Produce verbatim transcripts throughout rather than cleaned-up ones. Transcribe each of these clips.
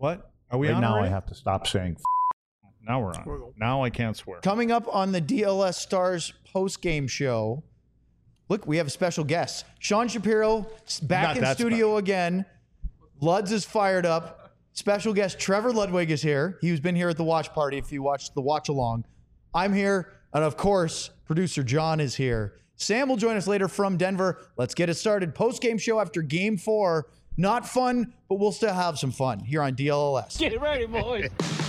What? Are we right on now? already? I have to stop saying. F- Now we're on. Now I can't swear. Coming up on the D L S Stars post-game show, look, we have a special guest. Sean Shapiro s- back Not in that studio special. again. Luds is fired up. Special guest Trevor Ludwig is here. He's been here at the watch party if you watched the watch along. I'm here. And of course, producer John is here. Sam will join us later from Denver. Let's get it started. Post-game show after game four. Not fun, but we'll still have some fun here on D L L S. Get ready, boys.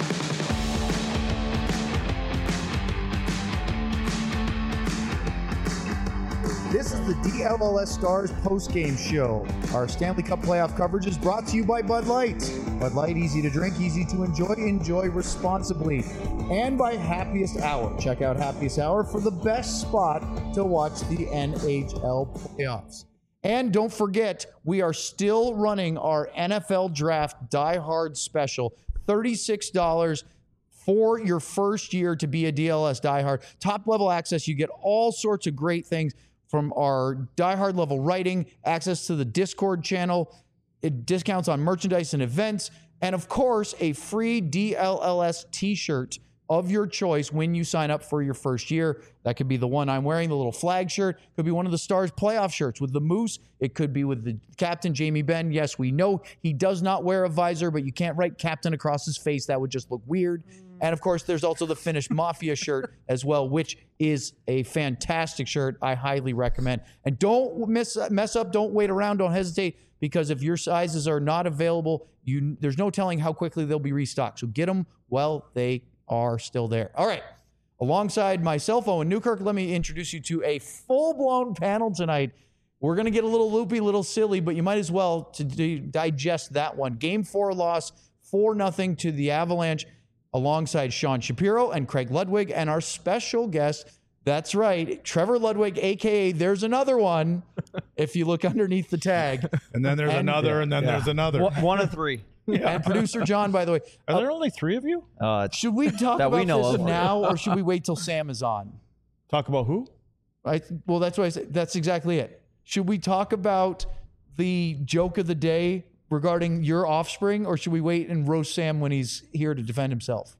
This is the D L L S Stars post-game show. Our Stanley Cup playoff coverage is brought to you by Bud Light. Bud Light, easy to drink, easy to enjoy, enjoy responsibly. And by Happiest Hour. Check out Happiest Hour for the best spot to watch the N H L playoffs. And don't forget, we are still running our N F L Draft Die Hard special. thirty-six dollars for your first year to be a D L S Die Hard. Top level access. You get all sorts of great things from our Die Hard level writing, access to the Discord channel, it- discounts on merchandise and events, and of course, a free D L L S t-shirt of your choice when you sign up for your first year. That could be the one I'm wearing, the little flag shirt. Could be one of the Stars playoff shirts with the Moose. It could be with the captain, Jamie Benn. Yes, we know he does not wear a visor, but you can't write captain across his face. That would just look weird. And of course, there's also the Finnish Mafia shirt as well, which is a fantastic shirt. I highly recommend. And don't miss, mess up. Don't wait around. Don't hesitate, because if your sizes are not available, you there's no telling how quickly they'll be restocked. So get them while they are still there. All right. Alongside myself, Owen Newkirk, let me introduce you to a full-blown panel tonight. We're going to get a little loopy, a little silly, but you might as well to d- digest that one. Game four loss, four nothing to the Avalanche, alongside Sean Shapiro and Craig Ludwig, and our special guest, that's right, Trevor Ludwig, a k a. There's Another One, if you look underneath the tag. And then there's And- another, and then Yeah. there's another. One, one of three. And producer John, by the way. Are there only three of you? Uh, Should we talk That we about know this of. now, or should we wait till Sam is on? Talk about who? I, well, that's what I said. That's exactly it. Should we talk about the joke of the day regarding your offspring, or should we wait and roast Sam when he's here to defend himself?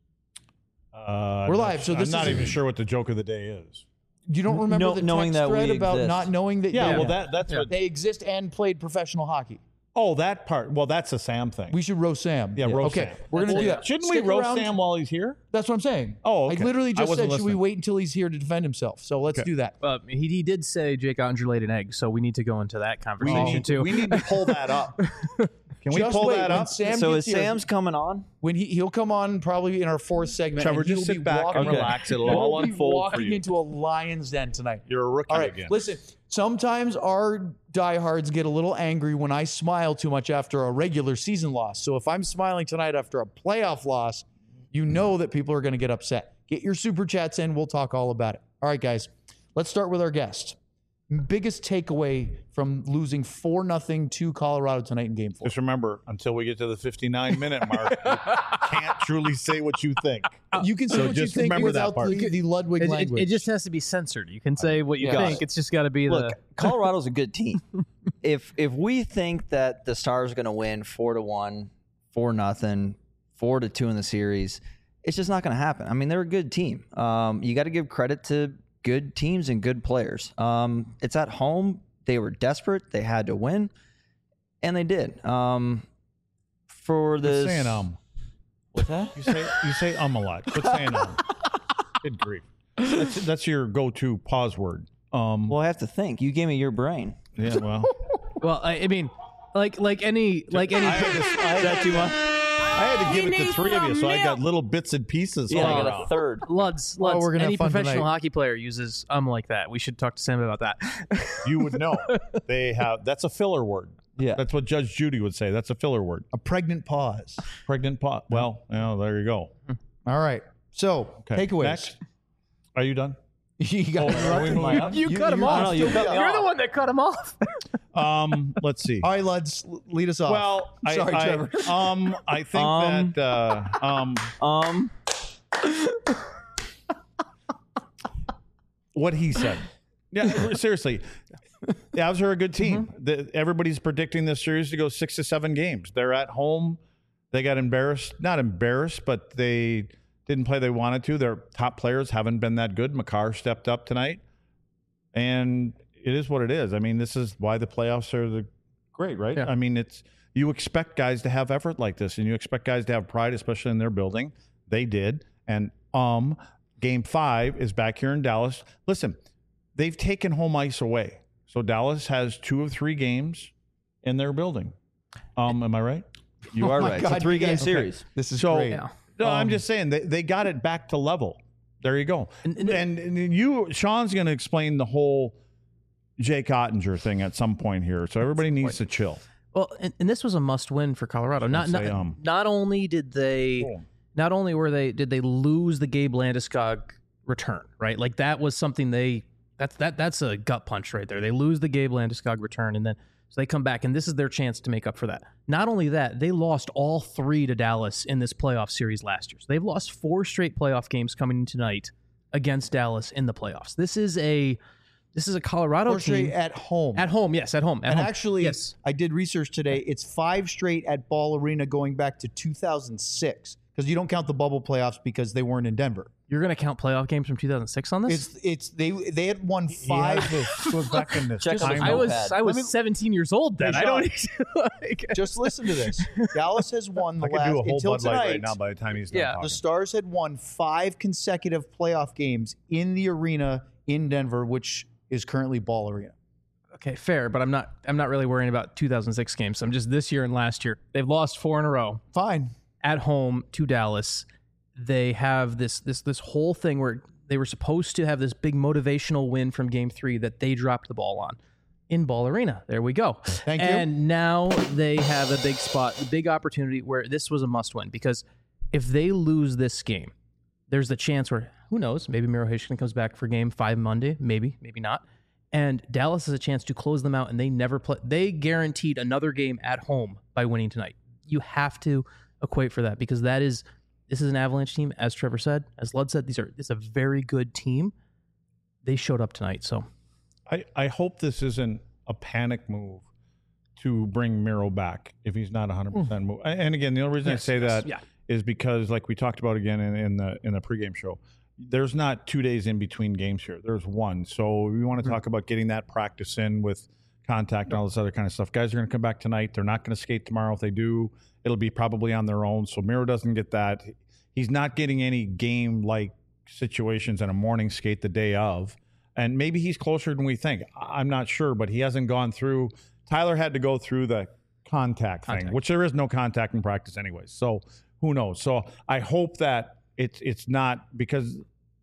Uh, We're I'm live, not- so this I'm not is- even sure what the joke of the day is. You don't remember No- the knowing text that we thread about exist. not knowing that Yeah, they, well, that that's what. they exist and played professional hockey. Oh, that part. Well, that's a Sam thing. We should roast Sam. Yeah, roast okay, Sam. we're gonna Well, do that. Shouldn't Stick we roast around. Sam while he's here? That's what I'm saying. Oh, okay. I literally I just wasn't said, should we listening. wait until he's here to defend himself? So let's Okay. do that. Uh, he, he did say Jake Andre laid an egg, so we need to go into that We conversation need, too. we need to pull that up. Can we Just pull wait, that when up? Sam so gets is here, Sam's coming on? when he he'll come on probably in our fourth segment. Trevor, and he'll just be sit back and walking- relax. It'll he'll all be unfold for walking you. into a lion's den tonight. You're a rookie All right, again. listen. Sometimes our diehards get a little angry when I smile too much after a regular season loss. So if I'm smiling tonight after a playoff loss, you know that people are going to get upset. Get your super chats in. We'll talk all about it. All right, guys. Let's start with our guest. Biggest takeaway from losing four nothing to Colorado tonight in game four. Just remember, until we get to the fifty-nine minute mark, you can't truly say what you think. You can say So what you just think remember that without part. the, the Ludwig It, it, language. it just has to be censored. You can say what you Yeah. think. It's just got to be Look, the. Colorado's a good team. if if we think that the Stars are going to win four to one, four nothing, four to two in the series, it's just not going to happen. I mean, they're a good team. Um, you got to give credit to good teams and good players. Um, it's at home. They were desperate. They had to win, and they did. Um, for Quit this, saying um. what's that? You say you say um a lot. Quit saying um. Good grief. That's that's your go-to pause word. Um. Well, I have to think. You gave me your brain. yeah. Well. Well, I, I mean, like like any like any. I had to, I had that too much? I had to give it to three of you, so I got little bits and pieces. Yeah, all I got around. a third. Luds, Oh, Luds, we're gonna any have fun professional tonight. hockey player uses um like that. We should talk to Sam about that. You would know. They have. That's a filler word. Yeah. That's what Judge Judy would say. That's a filler word. a pregnant pause. Pregnant pot. Well, yeah, there you go. All right. So, Okay. takeaways. Next. Are you done? you got Oh, are we moving on? You, cut him you're off. no, you cut me You're off. the one that cut him off. Um, let's see. All right, Luds, l- lead us off. Well, I, Sorry, I, Trevor. Um, I think Um. that uh, um, Um, what he said. Yeah, seriously. The Avs are a good team. The, everybody's predicting this series to go six to seven games. They're at home. They got embarrassed, not embarrassed, but they didn't play they wanted to. Their top players haven't been that good. Makar stepped up tonight, and it is what it is. I mean, this is why the playoffs are the great, right? Yeah. I mean, it's you expect guys to have effort like this, and you expect guys to have pride, especially in their building. They did, and um, game five is back here in Dallas. Listen, they've taken home ice away, so Dallas has two of three games in their building. Um, am I right? You are my right. God, it's a three-game yes. series. This is So, great. Yeah. no, I'm Um, just saying they, they got it back to level. There you go. And- And, and- and, you, Sean's going to explain the whole Jake Ottinger thing at some point here. So everybody needs to chill. Well, and, and this was a must-win for Colorado. Not say, not, um. not only did they, Cool. not only were they did they lose the Gabe Landeskog return, right? Like that was something they that's that that's a gut punch right there. They lose the Gabe Landeskog return, and then so they come back, and this is their chance to make up for that. Not only that, they lost all three to Dallas in this playoff series last year. So they've lost four straight playoff games coming in tonight against Dallas in the playoffs. This is a this is a Colorado Four straight team at home. at home. Yes, at home. At and home. actually, yes. I did research today. It's five straight at Ball Arena going back to two thousand six because you don't count the bubble playoffs because they weren't in Denver. You're going to count playoff games from two thousand six on this? It's it's they they had won five. Go back in this Check on time. the I was notepad. I was Let me- seventeen years old then. Hey, I don't Sean. like, Just listen to this. Dallas has won the I could last do a whole until Bud Light tonight. right now by the time he's done Yeah. talking. The Stars had won five consecutive playoff games in the arena in Denver, which is currently Ball Arena. Okay, fair, but I'm not I'm not really worrying about two thousand six games. I'm just this year and last year. They've lost four in a row Fine. at home to Dallas. They have this this this whole thing where they were supposed to have this big motivational win from game three that they dropped the ball on in Ball Arena. There we go. Thank you. And now they have a big spot, a big opportunity where this was a must win, because if they lose this game, there's the chance where, who knows, maybe Miro Heiskanen comes back for game five Monday, maybe, maybe not. And Dallas has a chance to close them out, and they never play. They guaranteed another game at home by winning tonight. You have to equate for that, because that is, this is an Avalanche team, as Trevor said, as Lud said, these are, it's a very good team. They showed up tonight, so. I, I hope this isn't a panic move to bring Miro back if he's not one hundred percent move. And again, the only reason Yes, I say yes, that yeah. is because, like we talked about again in, in the in the pregame show, there's not two days in between games here. There's one. So we want to talk about getting that practice in with contact and all this other kind of stuff. Guys are going to come back tonight. They're not going to skate tomorrow. If they do, it'll be probably on their own. So Miro doesn't get that. He's not getting any game-like situations in a morning skate the day of. And maybe he's closer than we think. I- I'm not sure, but he hasn't gone through. Tyler had to go through the contact thing, Contact. which there is no contact in practice anyways. So who knows? So I hope that it's it's not, because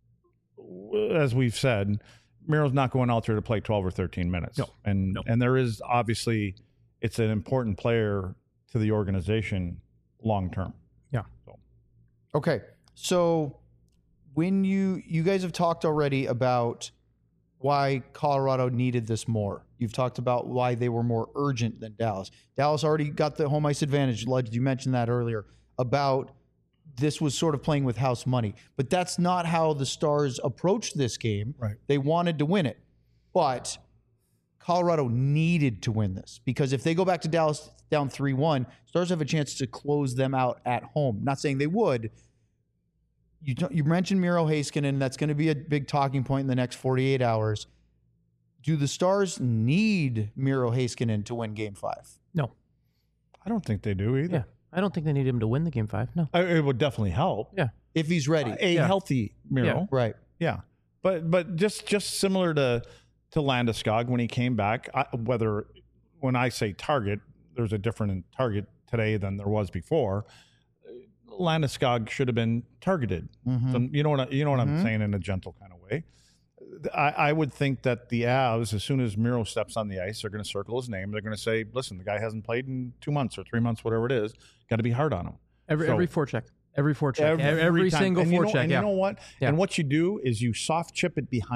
as we've said, Miro's not going out there to play twelve or thirteen minutes. No. And No. and there is obviously, it's an important player to the organization long term. Yeah. So Okay. So when you you guys have talked already about why Colorado needed this more. You've talked about why they were more urgent than Dallas. Dallas already got the home ice advantage. Lud, you mentioned that earlier about this was sort of playing with house money. But that's not how the Stars approached this game. Right. They wanted to win it. But Colorado needed to win this, because if they go back to Dallas down three one, Stars have a chance to close them out at home. Not saying they would. You don't- you mentioned Miro Heiskanen. That's going to be a big talking point in the next forty-eight hours. Do the Stars need Miro Heiskanen to win Game Five? No. I don't think they do either. Yeah. I don't think they need him to win the game five. No. I- It would definitely help. Yeah. If he's ready, A Yeah. healthy Miro. right? Yeah, but but just just similar to to Landeskog when he came back. I, whether when I say target, there's a different target today than there was before. Landeskog should have been targeted. Mhm. So, you know what I, you know what Mhm. I'm saying in a gentle kind of way. I, I would think that the Avs, as soon as Miro steps on the ice, they're going to circle his name. They're going to say, "Listen, the guy hasn't played in two months or three months, whatever it is. Got to be hard on him." Every So- every forecheck. Every forecheck. Every, every time. single and you know, forecheck. and Yeah. you know what? Yeah. And what you do is you soft chip it behind. Well,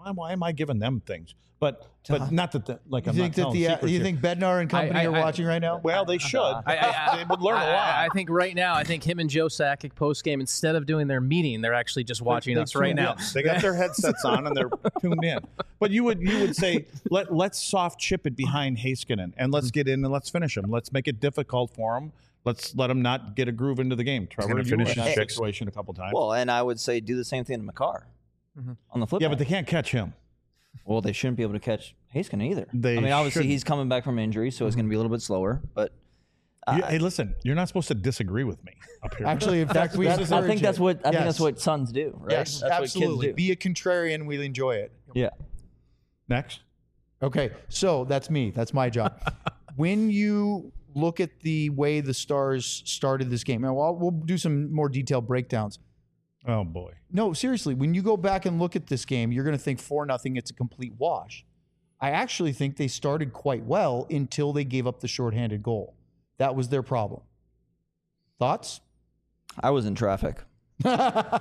why, why am I giving them things? But but not that the, like You I'm think not that the telling uh, secrets you here. think Bednar and company I- I- are I- watching right now? Well, they should. I, I, I, they would learn I, a lot. I, I think right now, I think him and Joe Sakic post game, instead of doing their meeting, they're actually just watching They us right tuned now. in. They got their headsets on and they're tuned in. But you would you would say let let's soft chip it behind Heiskanen and let's get in and let's finish him. Let's make it difficult for him. Let's let him not get a groove into the game. Trevor, gonna you were finish in that his situation a couple times. Well, and I would say do the same thing to Makar Mm-hmm. on the flip. yeah, side. but they can't catch him. Well, they shouldn't be able to catch Heiskanen either. They I mean, obviously shouldn't. he's coming back from injury, so it's going to be a little bit slower. But You- hey, listen, you're not supposed to disagree with me up here. Actually, in fact, we that's, I encourage think that's it. what I think Yes. that's what sons do, right? Yes, that's absolutely. what kids do. Be a contrarian. We'll enjoy it. Yeah. Next. Okay, so that's me. That's my job. When you look at the way the Stars started this game, and we'll, we'll do some more detailed breakdowns. Oh boy. No, seriously, when you go back and look at this game, you're going to think four nothing. It's a complete wash. I actually think they started quite well until they gave up the shorthanded goal. That was their problem. Thoughts? I was in traffic. Sean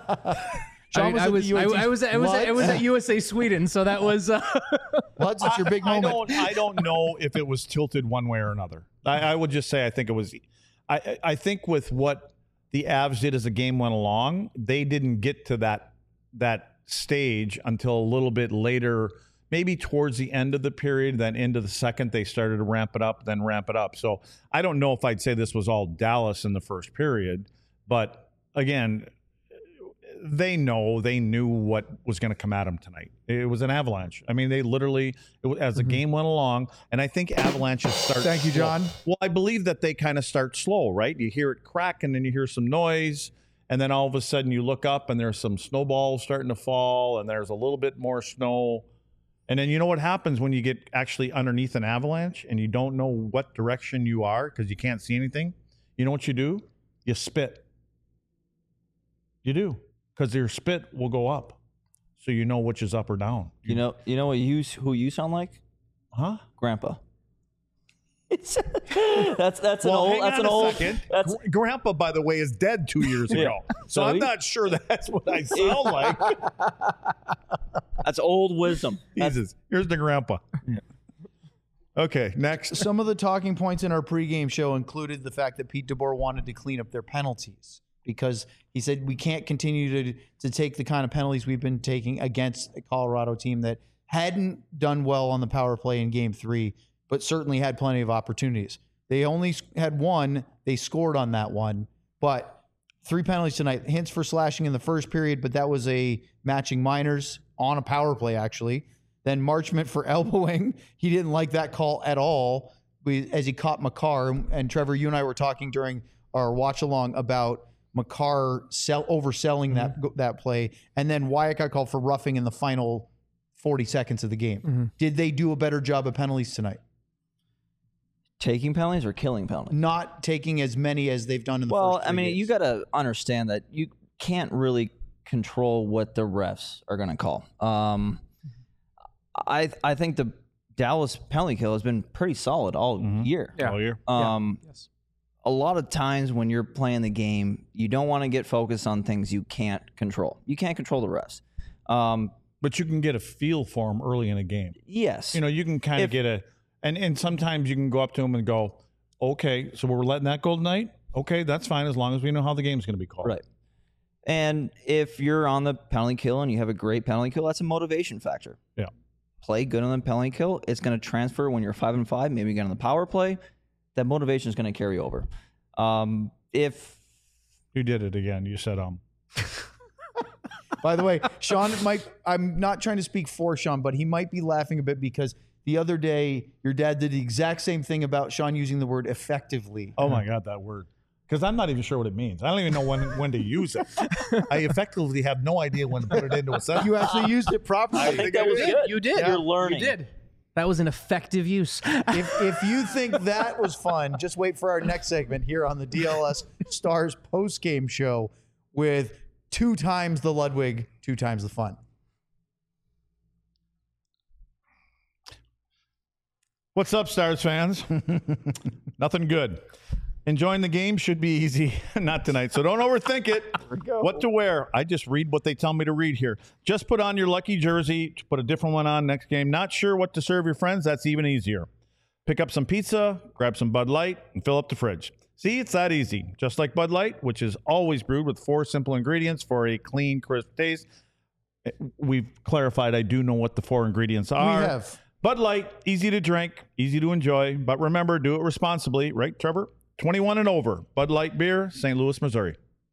I, mean, I at was, the I, U A T. I was, I was, I was at U S A Sweden, so that was. Uh, Luds, it's your big I moment. don't. I don't know if it was tilted one way or another. I, I would just say I think it was. I I think with what the Avs did as the game went along, they didn't get to that that stage until a little bit later, maybe towards the end of the period. Then into the second, they started to ramp it up, then ramp it up. So I don't know if I'd say this was all Dallas in the first period, but again, they know they knew what was going to come at them tonight. It was an avalanche. I mean, they literally, it was, as the game went along, and I think avalanches start. Thank you, slow. John. Well, I believe that they kind of start slow, right? You hear it crack, and then you hear some noise, and then all of a sudden you look up, and there's some snowballs starting to fall, and there's a little bit more snow. And then you know what happens when you get actually underneath an avalanche, and you don't know what direction you are because you can't see anything? You know what you do? You spit. You do. Because your spit will go up, so you know which is up or down. You know, you know what you who you sound like? Huh? Grandpa. It's that's that's an Well, old hang that's on an a old second. that's Gr- Grandpa, by the way, is dead two years ago, so So I'm he- not sure that's what I sound like. that's old wisdom. That's- Jesus, here's the grandpa. Okay, next. Some of the talking points in our pregame show included the fact that Pete DeBoer wanted to clean up their penalties because he said we can't continue to to take the kind of penalties we've been taking against a Colorado team that hadn't done well on the power play in game three, but certainly had plenty of opportunities. They only had one. They scored on that one, but three penalties tonight. Hints for slashing in the first period, but that was a matching minors on a power play, actually. Then Marchment for elbowing. He didn't like that call at all we, as he caught Makar. And Trevor, you and I were talking during our watch along about Makar sell, overselling Mm-hmm. that that play. And then Wyatt got called for roughing in the final forty seconds of the game. Mm-hmm. Did they do a better job of penalties tonight? taking penalties or killing penalties. Not taking as many as they've done in the Well, first I three mean, games. you got to understand that you can't really control what the refs are going to call. Um, I I think the Dallas penalty kill has been pretty solid all year. Yeah. All year. Um, yes. A lot of times when you're playing the game, you don't want to get focused on things you can't control. You can't control the refs. Um, But you can get a feel for them early in a game. yes. You know, you can kind of If- get a, and, and sometimes you can go up to them and go, okay, so we're letting that go tonight? Okay, that's fine as long as we know how the game's going to be called. Right. And if you're on the penalty kill and you have a great penalty kill, that's a motivation factor. Yeah. Play good on the penalty kill. It's going to transfer when you're five and five. Maybe you get on the power play. That motivation is going to carry over. Um, if You did it again. You said, um, By the way, Sean might, I'm not trying to speak for Sean, but he might be laughing a bit because the other day your dad did the exact same thing about Sean using the word effectively. oh my God, that word. Because I'm not even sure what it means. I don't even know when when to use it. I effectively have no idea when to put it into a sentence. You actually used it properly. I think that was good. You did. You're learning. You did. That was an effective use. if, if you think that was fun, just wait for our next segment here on the D L S Stars post-game show with two times the Ludwig, two times the fun. What's up, Stars fans? Nothing good. Enjoying the game should be easy. Not tonight, so don't overthink it. What to wear? I just read what they tell me to read here. Just put on your lucky jersey, put a different one on next game. Not sure what to serve your friends? That's even easier. Pick up some pizza, grab some Bud Light, and fill up the fridge. See, it's that easy. Just like Bud Light, which is always brewed with four simple ingredients for a clean, crisp taste. We've clarified I do know what the four ingredients are. We have. Bud Light, easy to drink, easy to enjoy, but remember, do it responsibly. Right, Trevor? twenty-one and over. Bud Light Beer, Saint Louis, Missouri.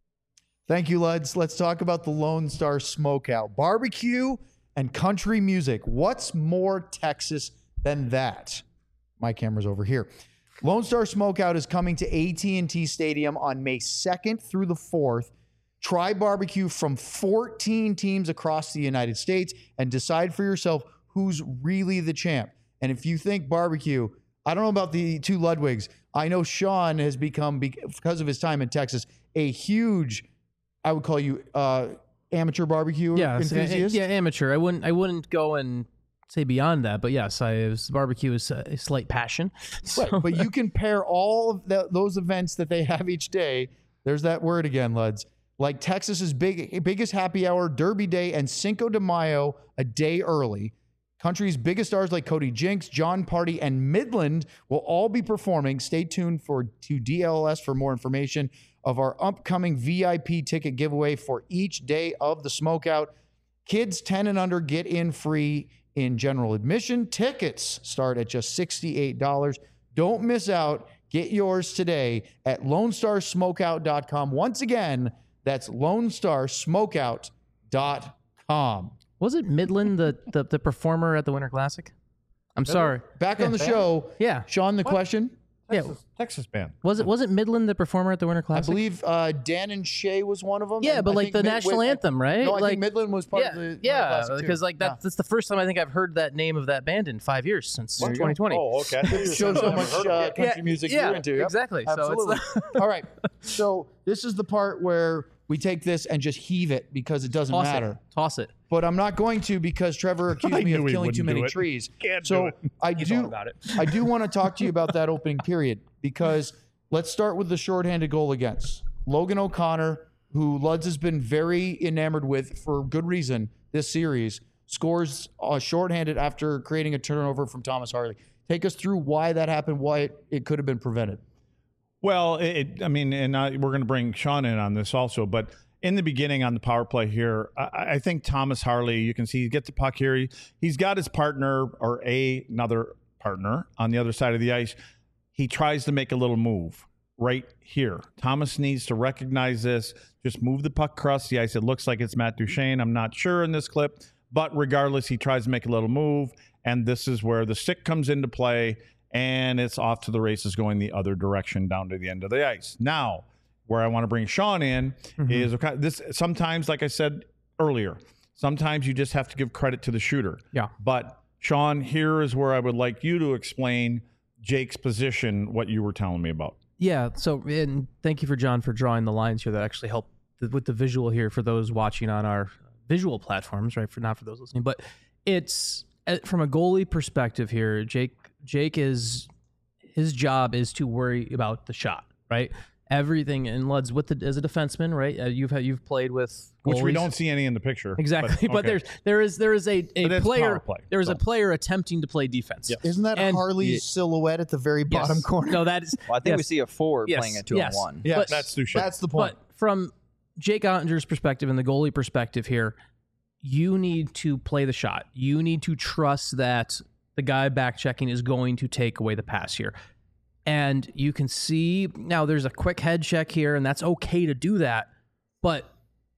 Thank you, Luds. Let's talk about the Lone Star Smokeout. Barbecue and country music. What's more Texas than that? My camera's over here. Lone Star Smokeout is coming to A T and T Stadium on May second through the fourth. Try barbecue from fourteen teams across the United States and decide for yourself who's really the champ. And if you think barbecue, I don't know about the two Ludwigs. I know Sean has become, because of his time in Texas, a huge, I would call you uh, amateur barbecue Yeah, enthusiast. yeah, amateur. I wouldn't. I wouldn't go and say beyond that, but yes, I was, barbecue is a slight passion. So. Right, but you can pair all of the, those events that they have each day. There's that word again, Luds. Like Texas's big biggest happy hour, Derby Day, and Cinco de Mayo a day early. Country's biggest stars like Cody Jinks, John Party, and Midland will all be performing. Stay tuned for to D L S for more information of our upcoming V I P ticket giveaway for each day of the Smokeout. Kids ten and under get in free in general admission. Tickets start at just sixty-eight dollars. Don't miss out. Get yours today at lone star smokeout dot com. Once again, that's lone star smokeout dot com. Was it Midland, the, the the performer at the Winter Classic? I'm sorry. Back on the show. Yeah. Sean, the question. Texas, Yeah. Texas band. Was it wasn't Midland the performer at the Winter I Classic? believe uh, Dan and Shay was one of them. Yeah, and but I like think the Mid- national wait, anthem, right? No, I like, think Midland was part yeah, of the Winter yeah, Classic, too. because like Yeah. that's, that's the first time I think I've heard that name of that band in five years since There you go. twenty twenty. Oh, okay. I thought you were Shows saying how much I've heard of uh, it. country music yeah, you're into. Yep. exactly. So it's Absolutely. the- All right. So this is the part where we take this and just heave it because it doesn't Toss matter. it. Toss it. But I'm not going to because Trevor accused I me knew of he killing too wouldn't many do it. trees. Can't so do it. I He's do all about it. I do want to talk to you about that opening period because let's start with the shorthanded goal against Logan O'Connor, who Luds has been very enamored with for good reason this series, scores uh, shorthanded after creating a turnover from Thomas Harley. Take us through why that happened, why it, it could have been prevented. Well, it, I mean, and I, we're going to bring Sean in on this also, but in the beginning on the power play here, I, I think Thomas Harley, you can see he gets the puck here. He, he's got his partner or a, another partner on the other side of the ice. He tries to make a little move right here. Thomas needs to recognize this, just move the puck across the ice. It looks like it's Matt Duchene. I'm not sure in this clip, but regardless, he tries to make a little move, and this is where the stick comes into play, and it's off to the races going the other direction down to the end of the ice. Now, where I want to bring Sean in mm-hmm. is okay, this. Sometimes, like I said earlier, sometimes you just have to give credit to the shooter. Yeah. But Sean, here is where I would like you to explain Jake's position, what you were telling me about. Yeah. So, and thank you for John for drawing the lines here that actually help th- with the visual here for those watching on our visual platforms, right? For not for those listening, but it's uh, from a goalie perspective here. Jake, Jake is his job is to worry about the shot, right? Everything and Luds with the as a defenseman, right? Uh, you've had, you've played with goalies. Which we don't see any in the picture. Exactly, but, but, okay. there's there is there is a, a player play, there is so. a player attempting to play defense. Yes. Isn't that And- Harley's Yeah. silhouette at the very bottom Yes. corner? No, that is. Well, I think we yes. see a forward Yes. playing a two Yes. on one. Yeah, But- That's Duchene. That's the point. But from Jake Ottinger's perspective and the goalie perspective here, you need to play the shot. You need to trust that the guy back checking is going to take away the pass here. And you can see now there's a quick head check here, and that's okay to do that. But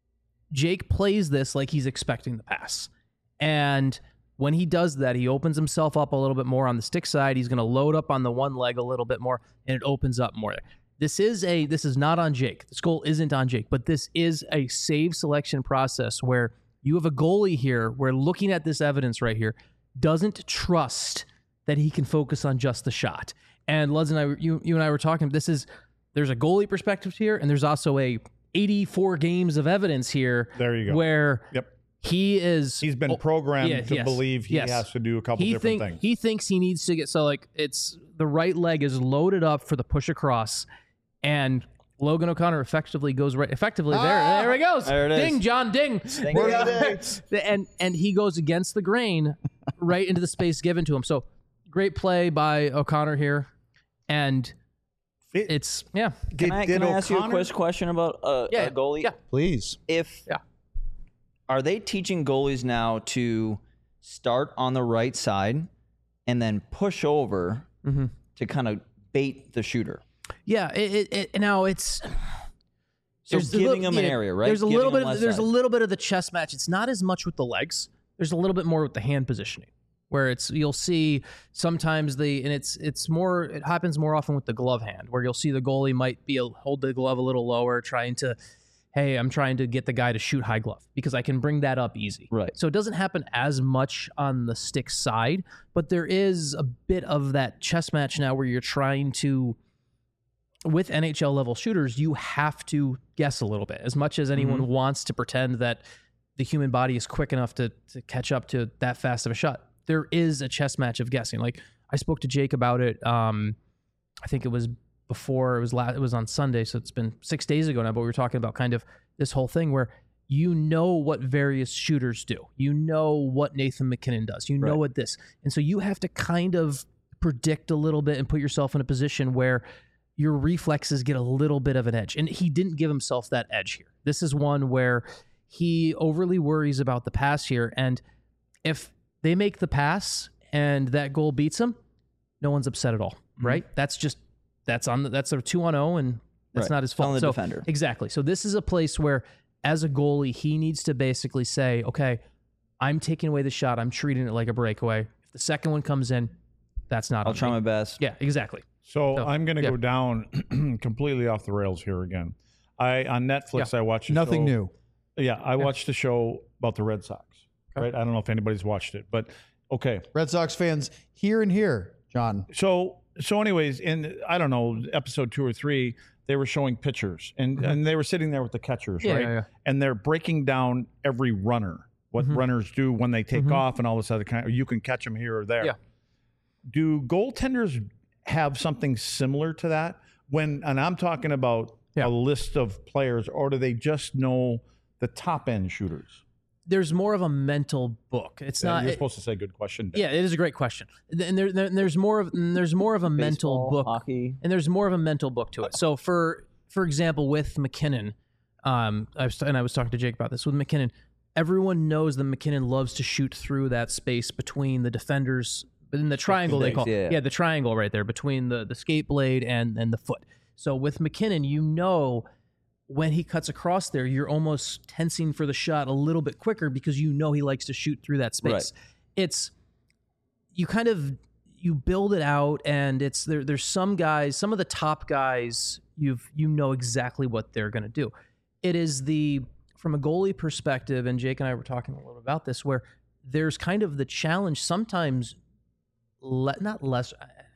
Jake plays this like he's expecting the pass. And when he does that, he opens himself up a little bit more on the stick side. He's going to load up on the one leg a little bit more, and it opens up more. This is a this is not on Jake. This goal isn't on Jake, but this is a save selection process where you have a goalie here where looking at this evidence right here doesn't trust that he can focus on just the shot. And Luds and I, you, you and I were talking, this is, there's a goalie perspective here, and there's also a eighty-four games of evidence here. There you go. Where Yep. he is. He's been oh, programmed yeah, to yes, believe he yes. has to do a couple he different think, things. He thinks he needs to get, so like it's the right leg is loaded up for the push across. and Logan O'Connor effectively goes right. Effectively, there, Ah! there he goes. There it is. Ding, John, ding. Ding, Word ding. of the day. and and he goes against the grain, right into the space given to him. So great play by O'Connor here, and It- it's yeah, Can I, did can I ask you a O'Connor- quick question about uh, yeah, a goalie? yeah. Please. If Yeah. are they teaching goalies now to start on the right side and then push over Mm-hmm. to kind of bait the shooter? Yeah, it, it, it now it's So there's a giving little- them an yeah, area, right? There's a Giving little bit them of less there's a side. little bit of the chess match. It's not as much with the legs. There's a little bit more with the hand positioning, where it's you'll see sometimes the and it's it's more it happens more often with the glove hand, where you'll see the goalie might be a, hold the glove a little lower, trying to, hey, I'm trying to get the guy to shoot high glove because I can bring that up easy. Right. So it doesn't happen as much on the stick side, but there is a bit of that chess match now where you're trying to, with N H L level shooters, you have to guess a little bit. As much as anyone Mm-hmm. wants to pretend that the human body is quick enough to, to catch up to that fast of a shot, there is a chess match of guessing. Like I spoke to Jake about it. Um, I think it was before it was la- it was on Sunday, so it's been six days ago now. But we were talking about kind of this whole thing where you know what various shooters do, you know what Nathan MacKinnon does, you know Right. what this, and so you have to kind of predict a little bit and put yourself in a position where your reflexes get a little bit of an edge. And he didn't give himself that edge here. This is one where he overly worries about the pass here, and if they make the pass and that goal beats him, no one's upset at all, right? That's just that's on the, that's a two on zero, and that's Right. not his It's on fault. the So defender. exactly. So this is a place where, as a goalie, he needs to basically say, "Okay, I'm taking away the shot. I'm treating it like a breakaway. If the second one comes in, that's not. I'll on try me." my best. Yeah, exactly. So So, I'm going to yeah. go down completely off the rails here again. I on Netflix I watched a Nothing show- new. Yeah, I watched a show about the Red Sox. Right, I don't know if anybody's watched it, but okay. Red Sox fans here and here, John. So so anyways, in I don't know episode two or three, they were showing pitchers and and they were sitting there with the catchers, Yeah, right? yeah, yeah. And they're breaking down every runner, what Mhm. runners do when they take Mhm. off, and all this other kind. Of, you can catch them here or there. Yeah. Do goaltenders have something similar to that? When and I'm talking about Yeah. a list of players, or do they just know the top end shooters? There's more of a mental book. It's Yeah, not. You're it- supposed to say good question. yeah, it is a great question. And there, there, there's more of and there's more of a mental Baseball, book, hockey. and there's more of a mental book to it. So for for example, with McKinnon, um, I was and I was talking to Jake about this with McKinnon. Everyone knows that McKinnon loves to shoot through that space between the defenders, but in the triangle they legs, call yeah. yeah the triangle right there between the the skate blade and and the foot. So with McKinnon, you know, when he cuts across there, you're almost tensing for the shot a little bit quicker because you know he likes to shoot through that space. Right. It's you kind of you build it out, and it's there. There's some guys, some of the top guys, you've you know exactly what they're going to do. It is the from a goalie perspective, and Jake and I were talking a little about this, where there's kind of the challenge sometimes, le- not less.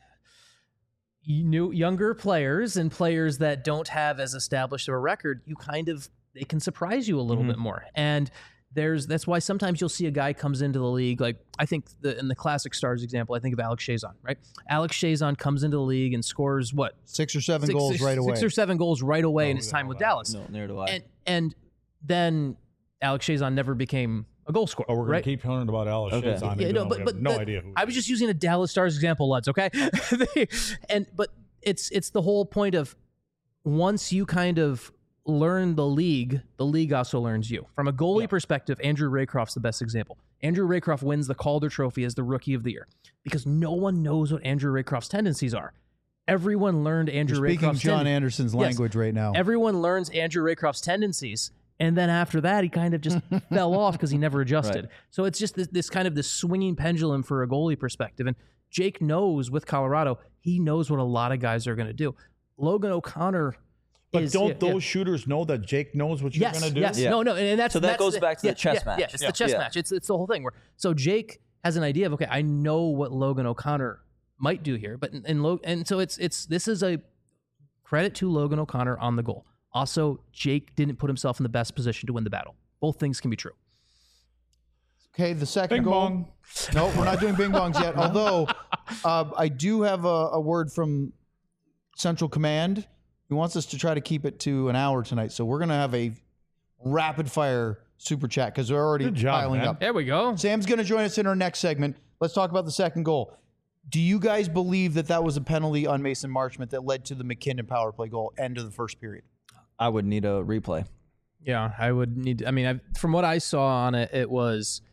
New younger players and players that don't have as established of a record, you kind of they can surprise you a little bit more. And there's that's why sometimes you'll see a guy comes into the league. Like I think the in the classic Stars example, I think of Alex Chazon, right? Alex Chazon comes into the league and scores what Six or seven Six- goals six- right away. six or seven goals right away in his time with Dallas. No, neither do I. And and then Alex Chazon never became a goal scorer. Oh, we're going right? to keep hearing about Alex Okay. Chazon. Yeah, even no, though but we but have no the- idea who. I was just using a Dallas Stars example, Luds. Okay, They- and but it's it's the whole point of once you kind of learn the league, the league also learns you. From a goalie perspective, Andrew Raycroft's the best example. Andrew Raycroft wins the Calder Trophy as the Rookie of the Year because no one knows what Andrew Raycroft's tendencies are. Everyone learned Andrew You're speaking Raycroft's John ten- Anderson's Yes. language right now. Everyone learns Andrew Raycroft's tendencies, and then after that, he kind of just fell off because he never adjusted. Right. So it's just this, this kind of this swinging pendulum for a goalie perspective. And Jake knows with Colorado, he knows what a lot of guys are going to do. Logan O'Connor But is, don't yeah, yeah. those shooters know that Jake knows what you're Yes, going to do? yes, Yeah. no, no, and, and that's So that that's goes the- back to the yeah, chess yeah, match. Yeah, it's Yeah. the chess Yeah. match. It's it's the whole thing. Where so Jake has an idea of okay, I know what Logan O'Connor might do here, but and Lo- and so it's it's this is a credit to Logan O'Connor on the goal. Also, Jake didn't put himself in the best position to win the battle. Both things can be true. Okay, the second Bing goal. bong. No, we're not doing bing bongs yet. Although uh, I do have a, a word from Central Command, He wants us to try to keep it to an hour tonight. So we're going to have a rapid fire super chat because we're already Good job, piling man. up. There we go. Sam's going to join us in our next segment. Let's talk about the second goal. Do you guys believe that that was a penalty on Mason Marchment that led to the McKinnon power play goal, end of the first period? I would need a replay. Yeah, I would need. I mean, I, from what I saw on it, it was.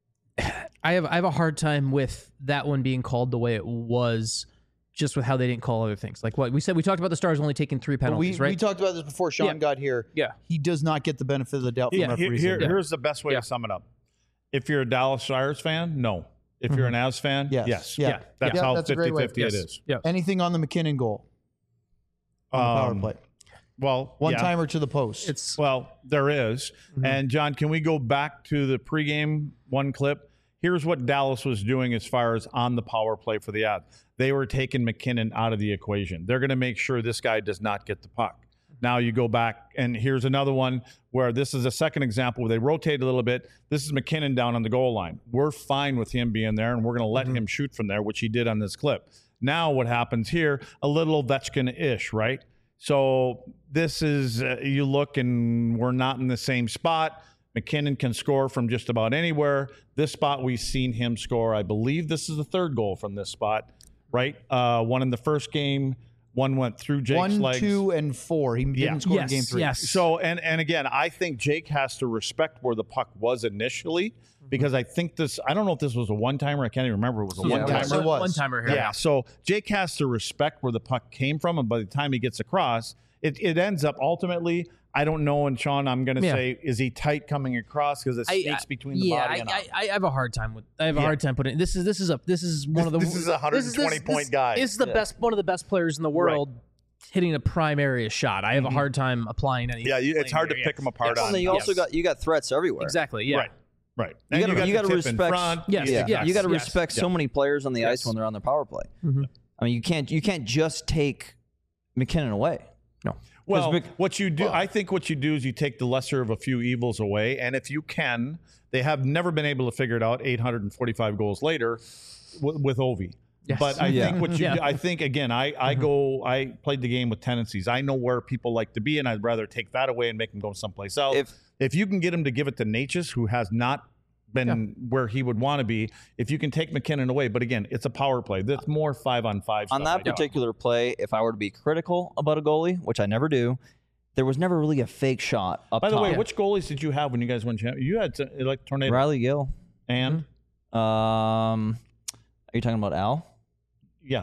I have I have a hard time with that one being called the way it was, just with how they didn't call other things. Like what we said, we talked about the Stars only taking three penalties, we, right? we talked about this before Sean Yeah. got here. Yeah. He does not get the benefit of the doubt from Yeah, here, referees. here- Yeah. here's the best way Yeah. to sum it up. If you're a Dallas Stars fan, no. If you're an Avs fan, Yes. yes. Yeah. Yeah. That's Yeah, how that's a great way. fifty-fifty it Yes. is. Yeah. Anything on the McKinnon goal? On the power Um, play. Well, One yeah. timer to the post. It's Well, there is. And John, can we go back to the pregame one clip? Here's what Dallas was doing as far as on the power play for the Avs. They were taking McKinnon out of the equation. They're going to make sure this guy does not get the puck. Now you go back, and here's another one where this is a second example where they rotate a little bit. This is McKinnon down on the goal line. We're fine with him being there, and we're going to let him shoot from there, which he did on this clip. Now what happens here, a little Ovechkin-ish, right? So this is, uh, you look, and we're not in the same spot. McKinnon can score from just about anywhere. This spot, we've seen him score. I believe this is the third goal from this spot, right? Uh, one in the first game. One went through Jake's One, legs. two, and four. He didn't Yeah. score yes, in game three. yes. So, and and again, I think Jake has to respect where the puck was initially because I think this, I don't know if this was a one-timer. I can't even remember. It was a Yeah, one-timer. Yes, it was. one timer here. Yeah. So Jake has to respect where the puck came from. And by the time he gets across, it, it ends up ultimately, I don't know. And Sean, I'm going to Yeah. say, is he tight coming across because it I- sneaks I- between the yeah, body I, and I, out? I have a hard time with. I have a Yeah. hard time putting. This is this is a this is one of the. This is a one hundred twenty point this, guy. This is the best one of the best players in the world hitting a prime area shot. I have a hard time applying any. Yeah, you, it's hard to blame pick there, them apart Yes. on. And then you also Yes. got you got threats everywhere. Exactly. Yeah. Right. Right. You And gotta- got you the gotta tip in respect- front. Yes, Yeah, yes, you got to yes. respect so many players on the Yes. ice when they're on their power play. Mhm. I mean, you can't you can't just take McKinnon away. No. Well, Mc- what you do, I think what you do is you take the lesser of a few evils away. And if you can, they have never been able to figure it out eight hundred forty-five goals later w- with Ovi. Yes. But I Yeah. think what you Yeah. do, I think, again, I, I go, I played the game with tendencies. I know where people like to be, and I'd rather take that away and make them go someplace else. If- If you can get him to give it to Natchez, who has not been where he would want to be, if you can take McKinnon away, but again, it's a power play. That's more five on five. On stuff that I do. particular play, if I were to be critical about a goalie, which I never do, there was never really a fake shot up By the top. way, which goalies did you have when you guys won champ? You had uh, like Tornado Riley Gill. and Um, are you talking about Al? yeah,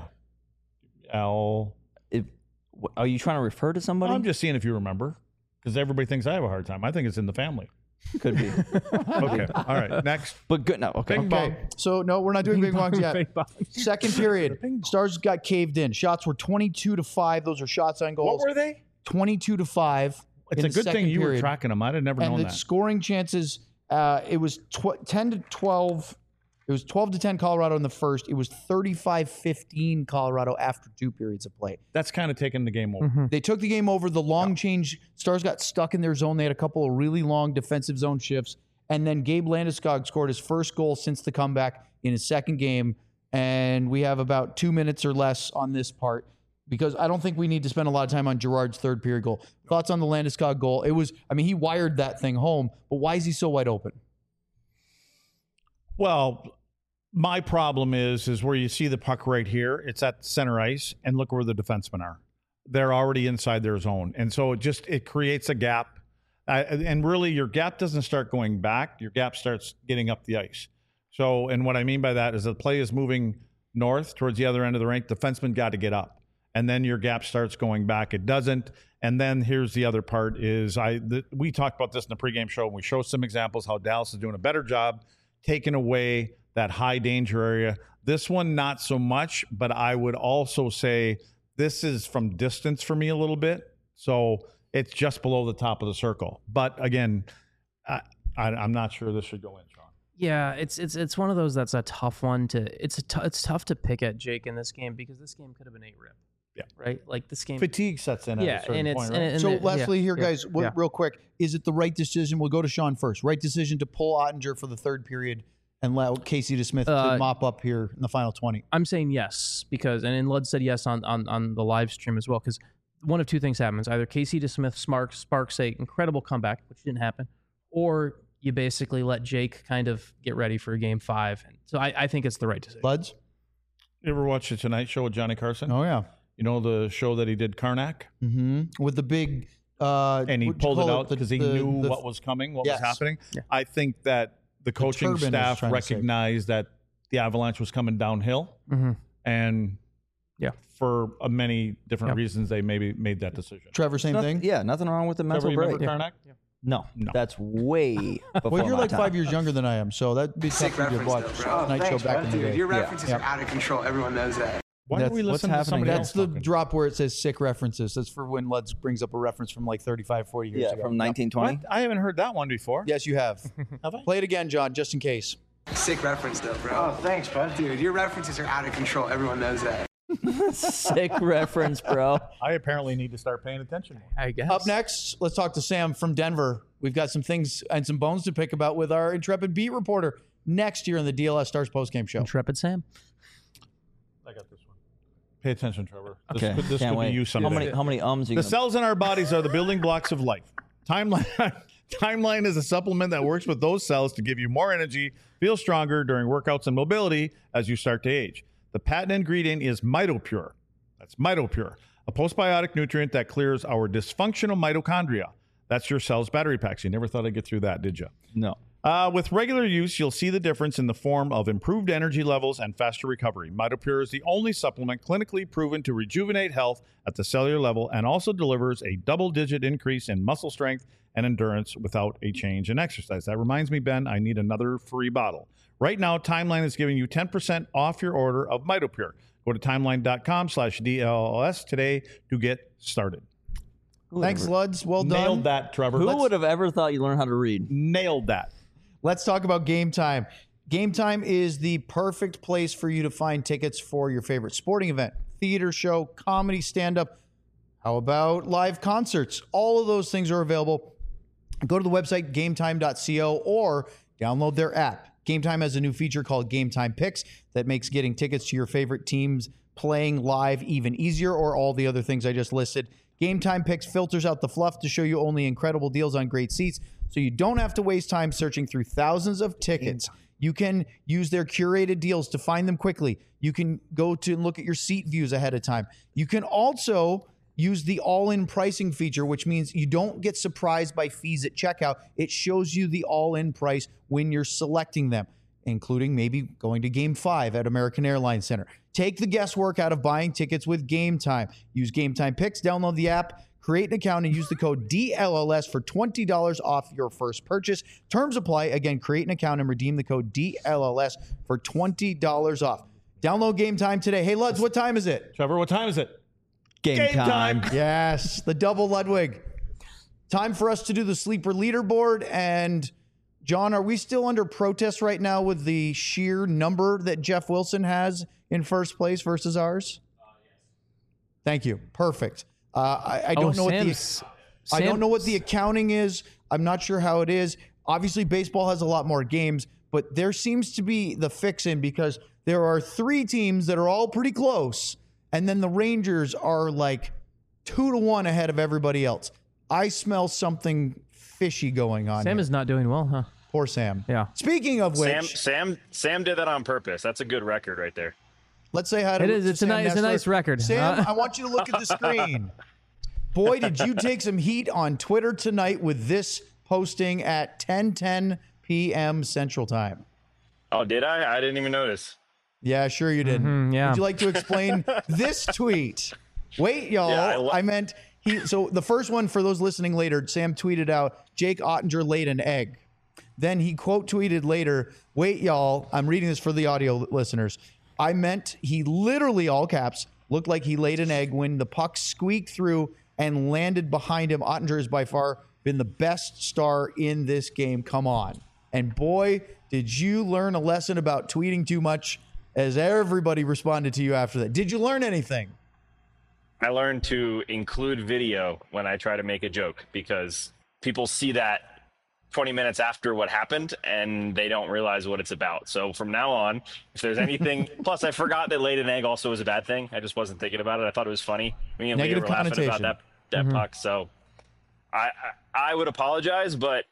Al. If, wh- are you trying to refer to somebody? I'm just seeing if you remember, because everybody thinks I have a hard time. I think it's in the family. Could be, Okay, all right. Next, but good. No, okay. Bing bong. Okay. So, no, we're not doing big bongs yet. Big bong. Second period. Stars got caved in. Shots were twenty-two to five. Those are shots on goals. What were they? twenty-two to five. It's in a the good thing second you were period. tracking them. I'd have never And known the that. scoring chances, uh, it was tw- ten to twelve. It was twelve to ten Colorado in the first. It was thirty-five fifteen Colorado after two periods of play. That's kind of taking the game over. Mm-hmm. They took the game over. The long change, Stars got stuck in their zone. They had a couple of really long defensive zone shifts. And then Gabe Landeskog scored his first goal since the comeback in his second game. And we have about two minutes or less on this part because I don't think we need to spend a lot of time on Gerard's third period goal. Thoughts on the Landeskog goal? It was, I mean, he wired that thing home, but why is he so wide open? Well, my problem is is where you see the puck right here. It's at center ice, and look where the defensemen are. They're already inside their zone, and so it just it creates a gap. Uh, and really, your gap doesn't start going back. Your gap starts getting up the ice. So, and what I mean by that is the play is moving north towards the other end of the rink. Defenseman got to get up, and then your gap starts going back. It doesn't. And then here's the other part: is I the, we talked about this in the pregame show, and we showed some examples how Dallas is doing a better job taking away that high danger area. This one, not so much, but I would also say this is from distance for me a little bit. So it's just below the top of the circle. But again, I, I, I'm not sure this should go in, Sean. Yeah, it's it's it's one of those that's a tough one to. It's a t- it's tough to pick at Jake in this game because this game could have been eight rip. Yeah. Right. Like this game. Fatigue sets in at yeah, a certain and it's point, and right? it- and So, it- Leslie, yeah, here, yeah, guys, w- yeah. real quick. Is it the right decision? We'll go to Sean first. Right decision to pull Ottinger for the third period and allow Casey DeSmith Uh, to mop up here in the final twenty? I'm saying yes because, and then Lud said yes on on on the live stream as well because one of two things happens. Either Casey DeSmith sparks, sparks a incredible comeback, which didn't happen, or you basically let Jake kind of get ready for game five. And so I, I think it's the right decision. Buds? You ever watch the Tonight Show with Johnny Carson? Oh, yeah. You know the show that he did, Karnak? Mm-hmm. With the big... Uh, and he what'd you pulled it call out because he The- knew the- what was coming, what Yes. was happening. Yeah. I think that the coaching turban is staff trying to say. recognized that the Avalanche was coming downhill, Mm-hmm. and Yeah. for uh, many different Yep. reasons, they maybe made that decision. Trevor, same Nothing- thing? Yeah, nothing wrong with the mental Trevor, you break. remember Karnak? No, No. that's way before Well, you're my like time. five years younger than I am, so that'd be tough Sick for you to reference, watch though, bro. Night Thanks, Show back bro. in the Dude, day. your Yeah. references Yeah. are out of control. Everyone knows that. Why That's- don't we what's listen to happening somebody here? else? That's the talking? drop where it says sick references. That's for when Luds brings up a reference from like thirty-five, forty years Yeah, ago. from nineteen twenty. What? I haven't heard that one before. Yes, you have. Have I? Play it again, John, just in case. Sick reference, though, bro. Oh, thanks, bud. Dude, your references are out of control. Everyone knows that. Sick reference, bro. I apparently need to start paying attention more. I guess. Up next, let's talk to Sam from Denver. We've got some things and some bones to pick about with our intrepid beat reporter next year on the D L S Stars postgame show. Intrepid Sam. I got this one. Pay attention, Trevor. This Okay, could, this can't could wait. be you how someday. many how many ums you The gonna cells in our bodies are the building blocks of life. Timeline Timeline is a supplement that works with those cells to give you more energy, feel stronger during workouts and mobility as you start to age. The patent ingredient is MitoPure. That's MitoPure, a postbiotic nutrient that clears our dysfunctional mitochondria. That's your cell's battery packs. You never thought I'd get through that, did you? No. Uh, with regular use, you'll see the difference in the form of improved energy levels and faster recovery. MitoPure is the only supplement clinically proven to rejuvenate health at the cellular level and also delivers a double-digit increase in muscle strength and endurance without a change in exercise. That reminds me, Ben, I need another free bottle. Right now, Timeline is giving you ten percent off your order of MitoPure. Go to timeline.com slash DLS today to get started. Thanks, Luds. Well done. Nailed that, Trevor. Who Let's- would have ever thought you learn how to read? Nailed that. Let's talk about Game Time. Game Time is the perfect place for you to find tickets for your favorite sporting event, theater show, comedy, stand-up. How about live concerts? All of those things are available. Go to the website game time dot co or download their app. Game Time has a new feature called Game Time Picks that makes getting tickets to your favorite teams playing live even easier, or all the other things I just listed. Game Time Picks filters out the fluff to show you only incredible deals on great seats, so you don't have to waste time searching through thousands of tickets. You can use their curated deals to find them quickly. You can go to and look at your seat views ahead of time. You can also use the all-in pricing feature, which means you don't get surprised by fees at checkout. It shows you the all-in price when you're selecting them, including maybe going to Game five at American Airlines Center. Take the guesswork out of buying tickets with Game Time. Use Game Time Picks, download the app, create an account, and use the code D L L S for twenty dollars off your first purchase. Terms apply. Again, create an account and redeem the code D L L S for twenty dollars off. Download Game Time today. Hey, Luds, what time is it? Trevor, what time is it? Game, Game time. time. Yes, the double Ludwig. Time for us to do the sleeper leaderboard. And John, are we still under protest right now with the sheer number that Jeff Wilson has in first place versus ours? Uh, yes. Thank you. Perfect. Uh, I, I don't Oh, know what the Sam's- I don't Sam- know what the accounting is. I'm not sure how it is. Obviously, baseball has a lot more games, but there seems to be the fix-in because there are three teams that are all pretty close, and then the Rangers are like two to one ahead of everybody else. I smell something fishy going on. Sam here. is not doing well, huh? Poor Sam. Yeah. Speaking of which, Sam, Sam, Sam did that on purpose. That's a good record right there. let's say hi to It is. to It's a Sam nice- it's a Nessler. nice record. Sam, Uh, I want you to look at the screen. Boy, did you take some heat on Twitter tonight with this posting at ten ten p.m. Central Time. Oh, did I? I didn't even notice. Yeah, sure you did. Mhm, yeah. Would you like to explain this tweet? Wait, y'all. Yeah, I I, lo- meant he. So the first one, for those listening later, Sam tweeted out, Jake Ottinger laid an egg. Then he quote tweeted later, wait, y'all. I'm reading this for the audio listeners. I meant he literally, all caps, looked like he laid an egg when the puck squeaked through and landed behind him. Ottinger has by far been the best star in this game. Come on. And boy, did you learn a lesson about tweeting too much, as everybody responded to you after that. Did you learn anything? I learned to include video when I try to make a joke because people see that twenty minutes after what happened, and they don't realize what it's about. So from now on, if there's anything, plus I forgot that laid an egg also was a bad thing. I just wasn't thinking about it. I thought it was funny. Me and Leah Negative were laughing about connotation. that that Mm-hmm. puck. So I, I I would apologize, but